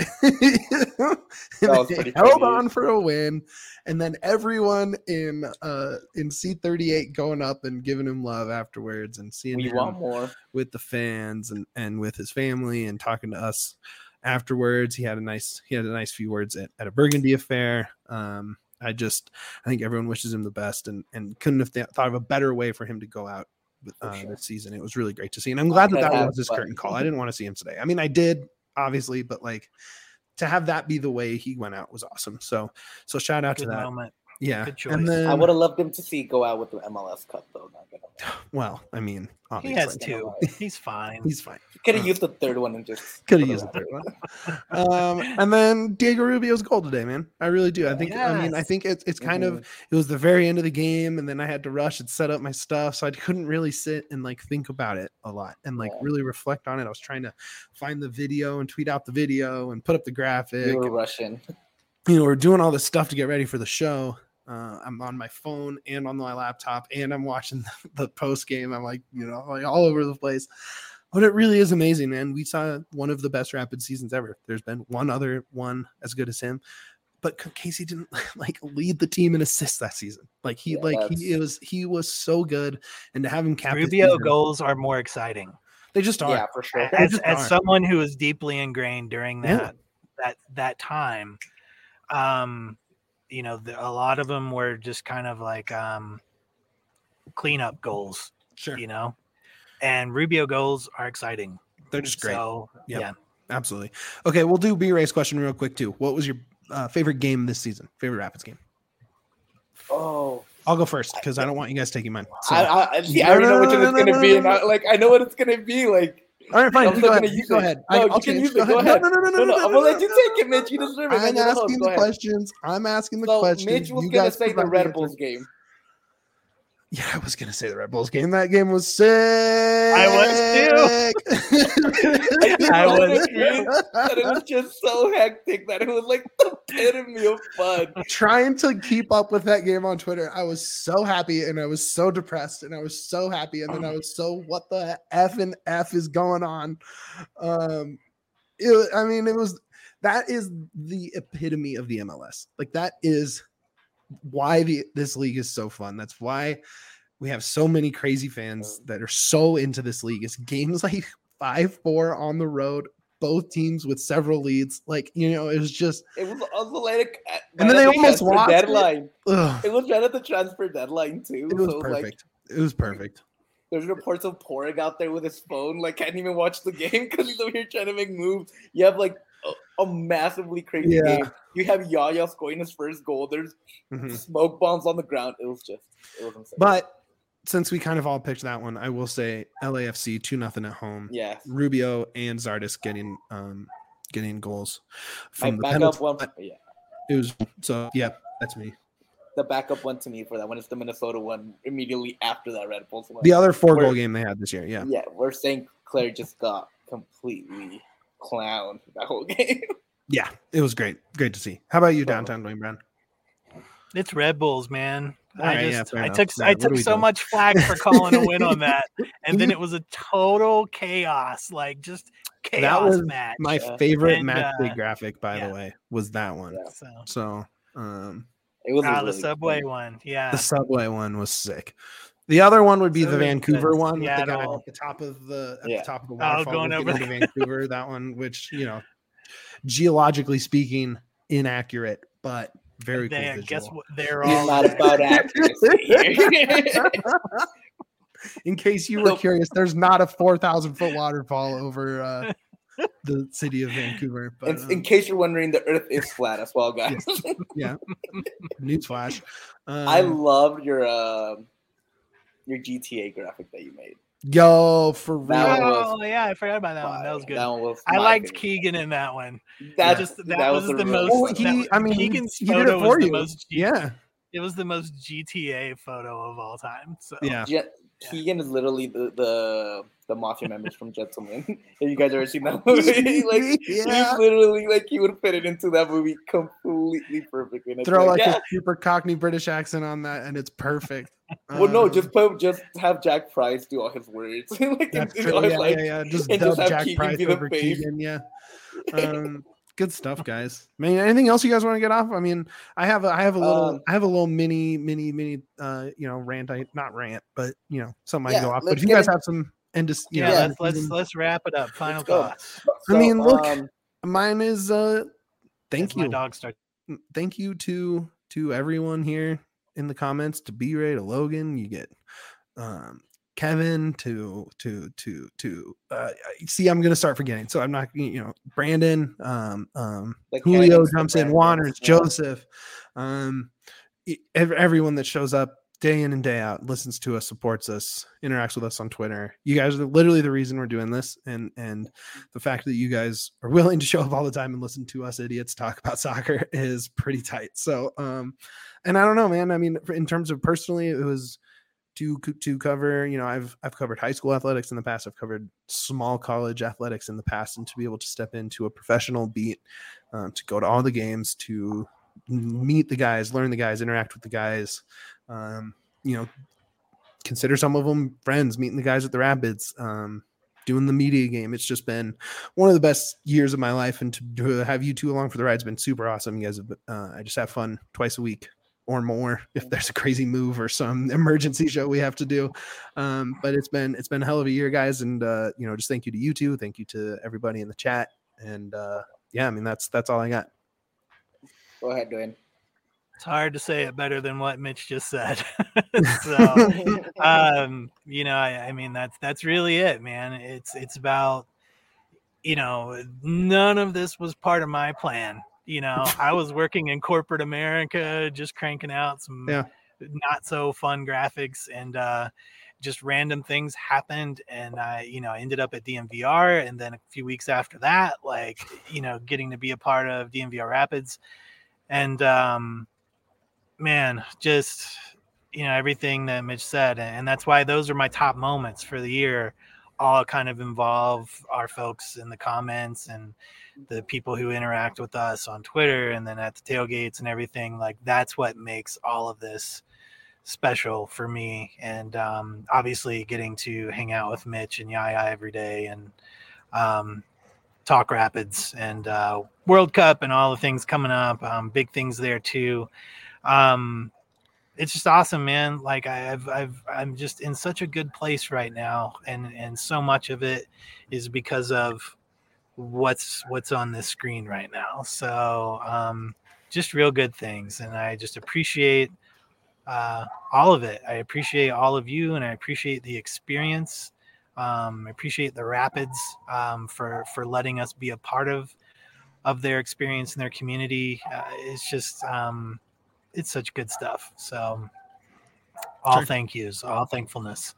they held on for a win. And then everyone in C38 going up and giving him love afterwards, and seeing him more with the fans and with his family, and talking to us afterwards. He had a nice few words at a Burgundy affair. I think everyone wishes him the best, and couldn't have thought of a better way for him to go out this season. It was really great to see, and I'm glad that was his curtain call. I didn't want to see him today. I mean, I did obviously, but like to have that be the way he went out was awesome. So shout out to that. Yeah, good choice. And then, I would have loved him to see go out with the MLS Cup though. Not gonna well, I mean, obviously. He has two. He's fine. He's fine. He could have used the third one and just could have used the third one. And then Diego Rubio's goal today, man. I really do. I think. Yes. I mean, I think it's kind of. It was the very end of the game, and then I had to rush and set up my stuff, so I couldn't really sit and like think about it a lot and like really reflect on it. I was trying to find the video and tweet out the video and put up the graphic. You were rushing. We're doing all this stuff to get ready for the show. I'm on my phone and on my laptop, and I'm watching the post game. I'm like, like all over the place. But it really is amazing, man. We saw one of the best Rapid seasons ever. There's been one other one as good as him, but Casey didn't like lead the team in assists that season. Like he was so good, and to have him captain. Rubio goals are more exciting. They just are. Yeah, for sure. As someone who was deeply ingrained during that time. A lot of them were just kind of like cleanup goals, sure. And Rubio goals are exciting. They're just great. So, yeah, absolutely. Okay, we'll do B-Ray's question real quick too. What was your favorite game this season? Favorite Rapids game? Oh, I'll go first because I don't want you guys taking mine. So. I already know which one it's gonna be, and I know what it's gonna be. Like, all right, fine. Go ahead. I'll change. Go ahead. No. I'm gonna let you take it, Mitch. You deserve it. I'm asking the questions. Mitch was gonna say the Red Bulls game. Yeah, I was gonna say the Red Bulls game. That game was sick. I was too. I was too. But it was just so hectic that it was like the epitome of fun. Trying to keep up with that game on Twitter, I was so happy and I was so depressed and I was so happy and then I was so what the F is going on? That is the epitome of the MLS. Like that is why this league is so fun. That's why we have so many crazy fans that are so into this league. It's games like 5-4 on the road, both teams with several leads. Like, it was also like and then they almost lost deadline. It was right at the transfer deadline too. It was perfect. It was perfect. There's reports of Porig out there with his phone, like can't even watch the game because he's over here trying to make moves. You have like a massively crazy game. You have Yaya scoring his first goal. There's smoke bombs on the ground. It was insane. But since we kind of all picked that one, I will say LAFC 2-0 at home. Yeah, Rubio and Zardes getting goals from the backup one. Yeah, it was that's me. The backup one to me for that one is the Minnesota one immediately after that Red Bulls one. The other 4-goal game they had this year. Yeah, we're saying Claire just got completely clown that whole game. Yeah, it was great to see. How about you, downtown Dwayne Brown? It's Red Bulls, man. I took so much flack for calling a win on that, and then it was a total chaos, like just chaos. That was match. My favorite match day graphic, by the way, was that one. Yeah. So it was the Subway one. Yeah, the Subway one was sick. The other one would be the Vancouver one with the guy at the top of the waterfall going over to Vancouver. That one, which geologically speaking, inaccurate, but very cool visual. Guess what? They're all not about accuracy. In case you were curious, there's not a 4,000-foot waterfall over the city of Vancouver. But, in case you're wondering, the Earth is flat as well, guys. Yes. Yeah. Newsflash. I loved your GTA graphic that you made. Yo, for real. I forgot about that one. That was good. That one was I liked Keegan in that one. That was the most. Keegan's photo was the most. Yeah, it was the most GTA photo of all time. So yeah. Keegan is literally the mafia members from Gentlemen. Have you guys ever seen that movie? He's literally he would fit it into that movie completely perfectly. Throw a super Cockney British accent on that, and it's perfect. Well, no, just have Jack Price do all his words. That's true. Just dub Jack Keegan Price over Keegan. Yeah. Good stuff, guys. I mean, anything else you guys want to get off? I mean, I have a little mini rant. Not rant, but something I can go off. But if you guys have some let's wrap it up. Final thoughts. I mean, look, mine is thank you. My dog starts. Thank you to everyone here in the comments, to B-Ray, to Logan. You get Kevin, to see, I'm gonna start forgetting, so I'm not, Brandon, Julio jumps in, Waters, Joseph, everyone that shows up day in and day out, listens to us, supports us, interacts with us on Twitter. You guys are literally the reason we're doing this. And the fact that you guys are willing to show up all the time and listen to us idiots talk about soccer is pretty tight. So, and I don't know, man, I mean, in terms of personally, it was to cover, you know, I've covered high school athletics in the past. I've covered small college athletics in the past, and to be able to step into a professional beat, to go to all the games, to meet the guys, learn the guys, interact with the guys, you know, consider some of them friends, meeting the guys at the Rapids, doing the media game. It's just been one of the best years of my life, and to have you two along for the ride has been super awesome. You guys have, I just have fun twice a week or more if there's a crazy move or some emergency show we have to do. But it's been a hell of a year, guys. And, you know, just thank you to you two. Thank you to everybody in the chat. And, yeah, I mean, that's all I got. Go ahead, Dwayne. It's hard to say it better than what Mitch just said. So, you know, I mean, that's really it, man. It's about, you know, none of this was part of my plan. You know, I was working in corporate America, just cranking out some not so fun graphics, and just random things happened. And I, you know, I ended up at DMVR. And then a few weeks after that, like, you know, getting to be a part of DMVR Rapids. And, man, just, you know, everything that Mitch said. And that's why those are my top moments for the year, all kind of involve our folks in the comments and the people who interact with us on Twitter and then at the tailgates and everything. Like, that's what makes all of this special for me. And obviously getting to hang out with Mitch and Yaya every day, and talk Rapids and World Cup and all the things coming up, big things there too. It's just awesome, man. Like, I'm just in such a good place right now, and so much of it is because of what's on this screen right now. So just real good things, and I just appreciate all of it. I appreciate all of you, and I appreciate the experience. I appreciate the Rapids for letting us be a part of their experience in their community. It's just it's such good stuff. So all thank yous, all thankfulness.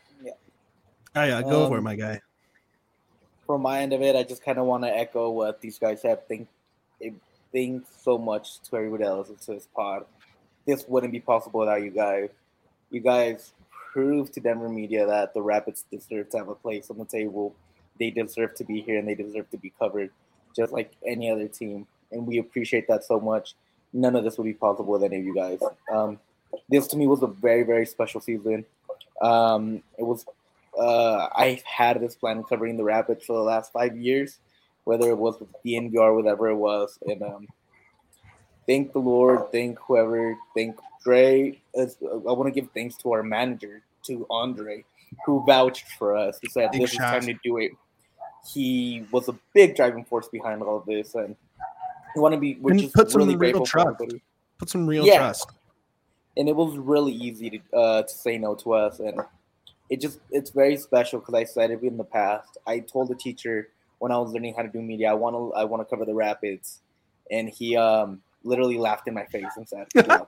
Yeah. Go for it, my guy. From my end of it, I just kind of want to echo what these guys have. Thanks so much to everybody else to this pod. This wouldn't be possible without you guys. You guys proved to Denver media that the Rapids deserve to have a place on the table. They deserve to be here, and they deserve to be covered just like any other team. And we appreciate that so much. None of this would be possible with any of you guys. This to me was a very, very special season. It was. I've had this plan of covering the Rapids for the last 5 years, whether it was with DNVR or whatever it was. And thank the Lord, thank whoever, thank Dre. I want to give thanks to our manager, to Andre, who vouched for us. He said this is time to do it. He was a big driving force behind all of this, and we're just really grateful for everybody. Put some real trust. And it was really easy to say no to us, and it's very special because I said it in the past. I told the teacher when I was learning how to do media, I want to cover the Rapids, and he literally laughed in my face and said, "Good luck."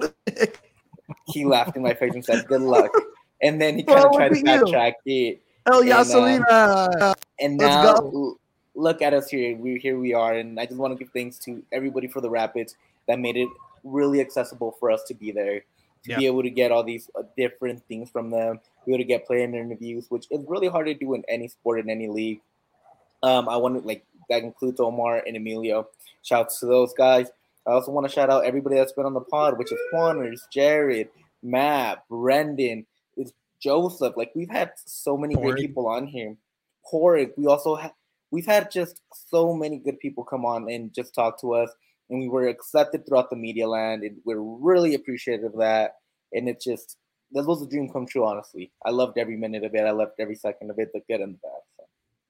He laughed in my face and said, "Good luck," and then he kind of tried to backtrack it. El Yasalina. And now look at us here. Here we are, and I just want to give thanks to everybody for the Rapids that made it really accessible for us to be there, to be able to get all these different things from them, be able to get player interviews, which is really hard to do in any sport, in any league. I want to, that includes Omar and Emilio. Shouts to those guys. I also want to shout out everybody that's been on the pod, which is Juaners, Jared, Matt, Brendan, it's Joseph. We've had so many great people on here. Horig. We've had just so many good people come on and just talk to us, and we were accepted throughout the media land, and we're really appreciative of that. And it just, that was a dream come true, honestly. I loved every minute of it. I loved every second of it, the good and the bad. So.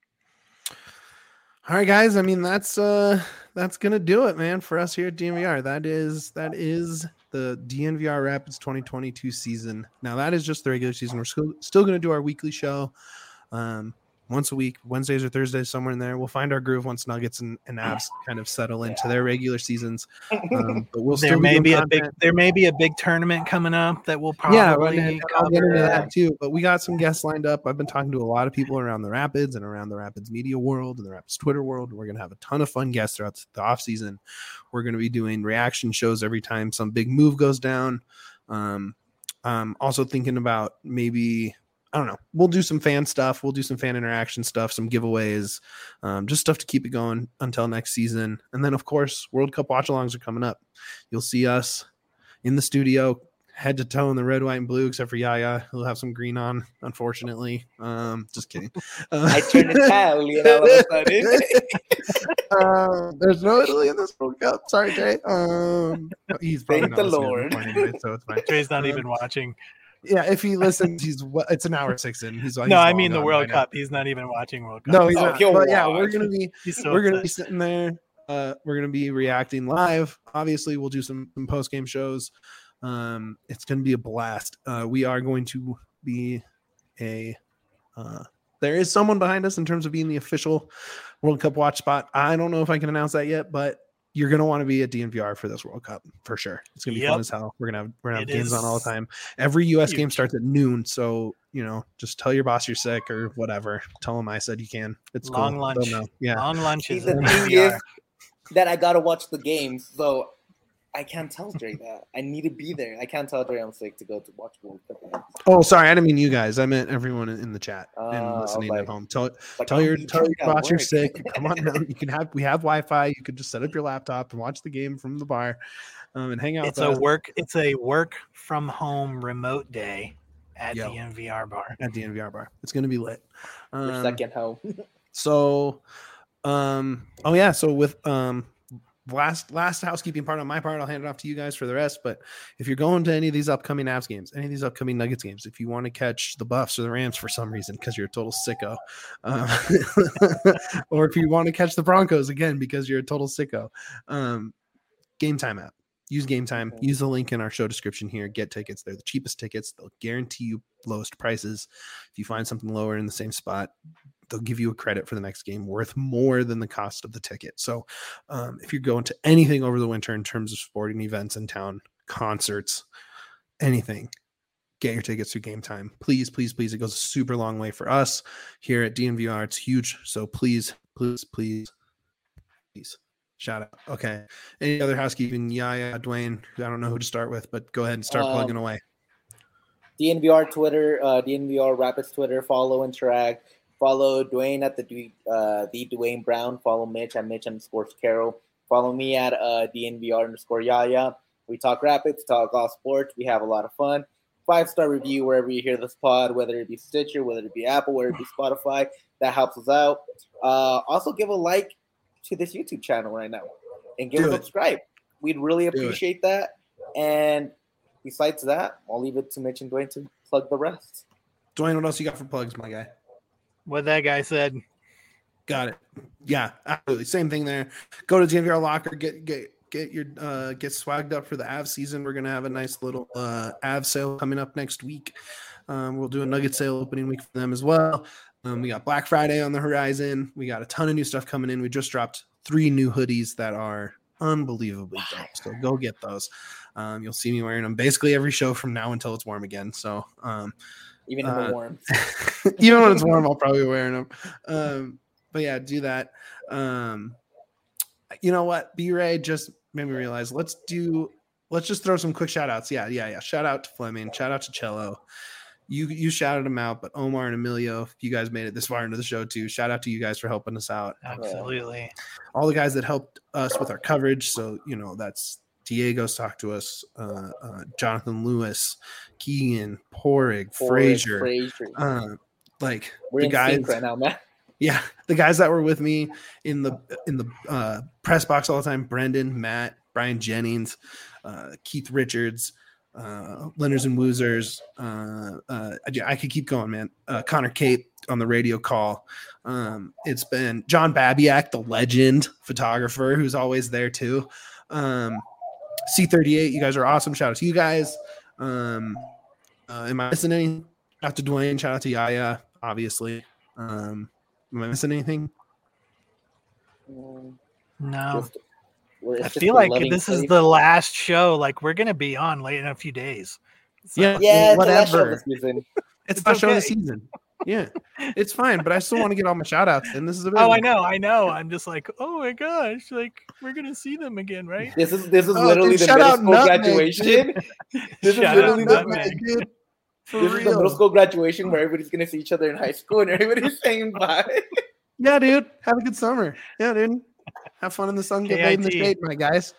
All right, guys. I mean, that's gonna do it, man, for us here at DNVR. That is the DNVR Rapids 2022 season. Now, that is just the regular season. We're still gonna do our weekly show. once a week, Wednesdays or Thursdays, somewhere in there. We'll find our groove once Nuggets and Avs kind of settle into their regular seasons. But we'll there may be a big tournament coming up that we'll probably I'll get into that too. But we got some guests lined up. I've been talking to a lot of people around the Rapids and around the Rapids media world and the Rapids Twitter world. We're going to have a ton of fun guests throughout the off season. We're going to be doing reaction shows every time some big move goes down. Also thinking about maybe, I don't know, we'll do some fan stuff. We'll do some fan interaction stuff, some giveaways, just stuff to keep it going until next season. And then, of course, World Cup watch-alongs are coming up. You'll see us in the studio, head to toe in the red, white, and blue, except for Yaya. He'll have some green on, unfortunately. Just kidding. I turned Italian all of a sudden. There's no Italy in this World Cup. Sorry, Jay. He's probably Thank the Lord. Anyway, so it's fine. Jay's not even watching. Yeah, if he listens, it's an hour 6 in. He's like, no, I mean the World Cup. He's not even watching World Cup. No, he's not. But yeah, we're gonna be be sitting there. We're gonna be reacting live. Obviously, we'll do some post game shows. It's gonna be a blast. We are going to be there is someone behind us in terms of being the official World Cup watch spot. I don't know if I can announce that yet, but you're going to want to be at DNVR for this World Cup for sure. It's going to be fun as hell. We're going to have games on all the time. Every US game starts at noon. So, just tell your boss you're sick or whatever. Tell them I said you can. It's long cool. lunch. Yeah. Long lunches. The thing is that I got to watch the games. So I can't tell Dre that. I need to be there. I can't tell Dre I'm sick to go to watch World Cup. Oh, sorry. I didn't mean you guys. I meant everyone in the chat and listening at home. Tell your boss you're sick. Come on down. We have Wi-Fi. You could just set up your laptop and watch the game from the bar and hang out. It's a work from home remote day at the DNVR bar. At the DNVR bar. It's going to be lit. Your second home. So with last housekeeping part on my part, I'll hand it off to you guys for the rest. But if you're going to any of these upcoming Avs games, any of these upcoming Nuggets games, if you want to catch the Buffs or the Rams for some reason because you're a total sicko, or if you want to catch the Broncos again because you're a total sicko, Game Time app. Use Game Time. Use the link in our show description here. Get tickets. They're the cheapest tickets. They'll guarantee you lowest prices. If you find something lower in the same spot, they'll give you a credit for the next game worth more than the cost of the ticket. So if you're going to anything over the winter in terms of sporting events in town, concerts, anything, get your tickets through Game Time. Please, please, please. It goes a super long way for us here at DNVR. It's huge. So please, please, please, please. Shout out. Okay. Any other housekeeping? Yeah, Dwayne. I don't know who to start with, but go ahead and start plugging away. DNVR Twitter, DNVR Rapids Twitter. Follow, interact. Follow Dwayne at the Dwayne Brown. Follow Mitch at Mitch_Carroll. Follow me at DNVR_Yaya. We talk Rapids, talk all sports. We have a lot of fun. 5-star review wherever you hear this pod, whether it be Stitcher, whether it be Apple, whether it be Spotify. That helps us out. Also, give a like to this YouTube channel right now and give a subscribe. We'd really appreciate that. And besides that, I'll leave it to Mitch and Dwayne to plug the rest. Dwayne, what else you got for plugs, my guy? What that guy said. Got it. Yeah, absolutely. Same thing there. Go to DNVR Locker, get your get swagged up for the Avs season. We're gonna have a nice little Avs sale coming up next week. We'll do a Nugget sale opening week for them as well. We got Black Friday on the horizon. We got a ton of new stuff coming in. We just dropped 3 new hoodies that are unbelievably dope. So go get those. You'll see me wearing them basically every show from now until it's warm again. So even in the warm, even when it's warm, I'll probably be wearing them. But yeah, do that. You know what? B-Ray just made me realize. Let's just throw some quick shout outs. Yeah. Shout out to Fleming. Shout out to Cello. You shouted them out, but Omar and Emilio, you guys made it this far into the show too. Shout out to you guys for helping us out. Absolutely. All the guys that helped us with our coverage. So, that's Diego's talked to us, Jonathan Lewis, Keegan, Porig, Frazier. We're the guys right now, man. Yeah, the guys that were with me in the press box all the time: Brendan, Matt, Brian Jennings, Keith Richards, Lenders and Woozers. I could keep going, man. Connor Cape on the radio call. It's been John Babiak, the legend photographer, who's always there too. C38, you guys are awesome. Shout out to you guys. Am I missing any? Shout out to Dwayne. Shout out to Yaya, obviously. Am I missing anything? No. I feel like this is the last show. Like we're gonna be on late in a few days. So, yeah, whatever. It's the show of the season. Yeah, it's fine, but I still want to get all my shout outs. And this is a I know. I'm just like, oh my gosh, like we're gonna see them again, right? This is literally the middle school graduation. This is literally the middle school graduation where everybody's gonna see each other in high school and everybody's saying bye. Yeah, dude. Have a good summer. Yeah, dude. Have fun in the sun. Get laid in the shade, my guys.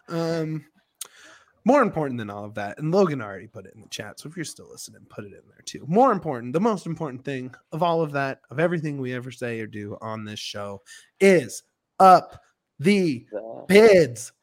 More important than all of that, and Logan already put it in the chat, so if you're still listening, put it in there too. More important, the most important thing of all of that, of everything we ever say or do on this show, is up the bids.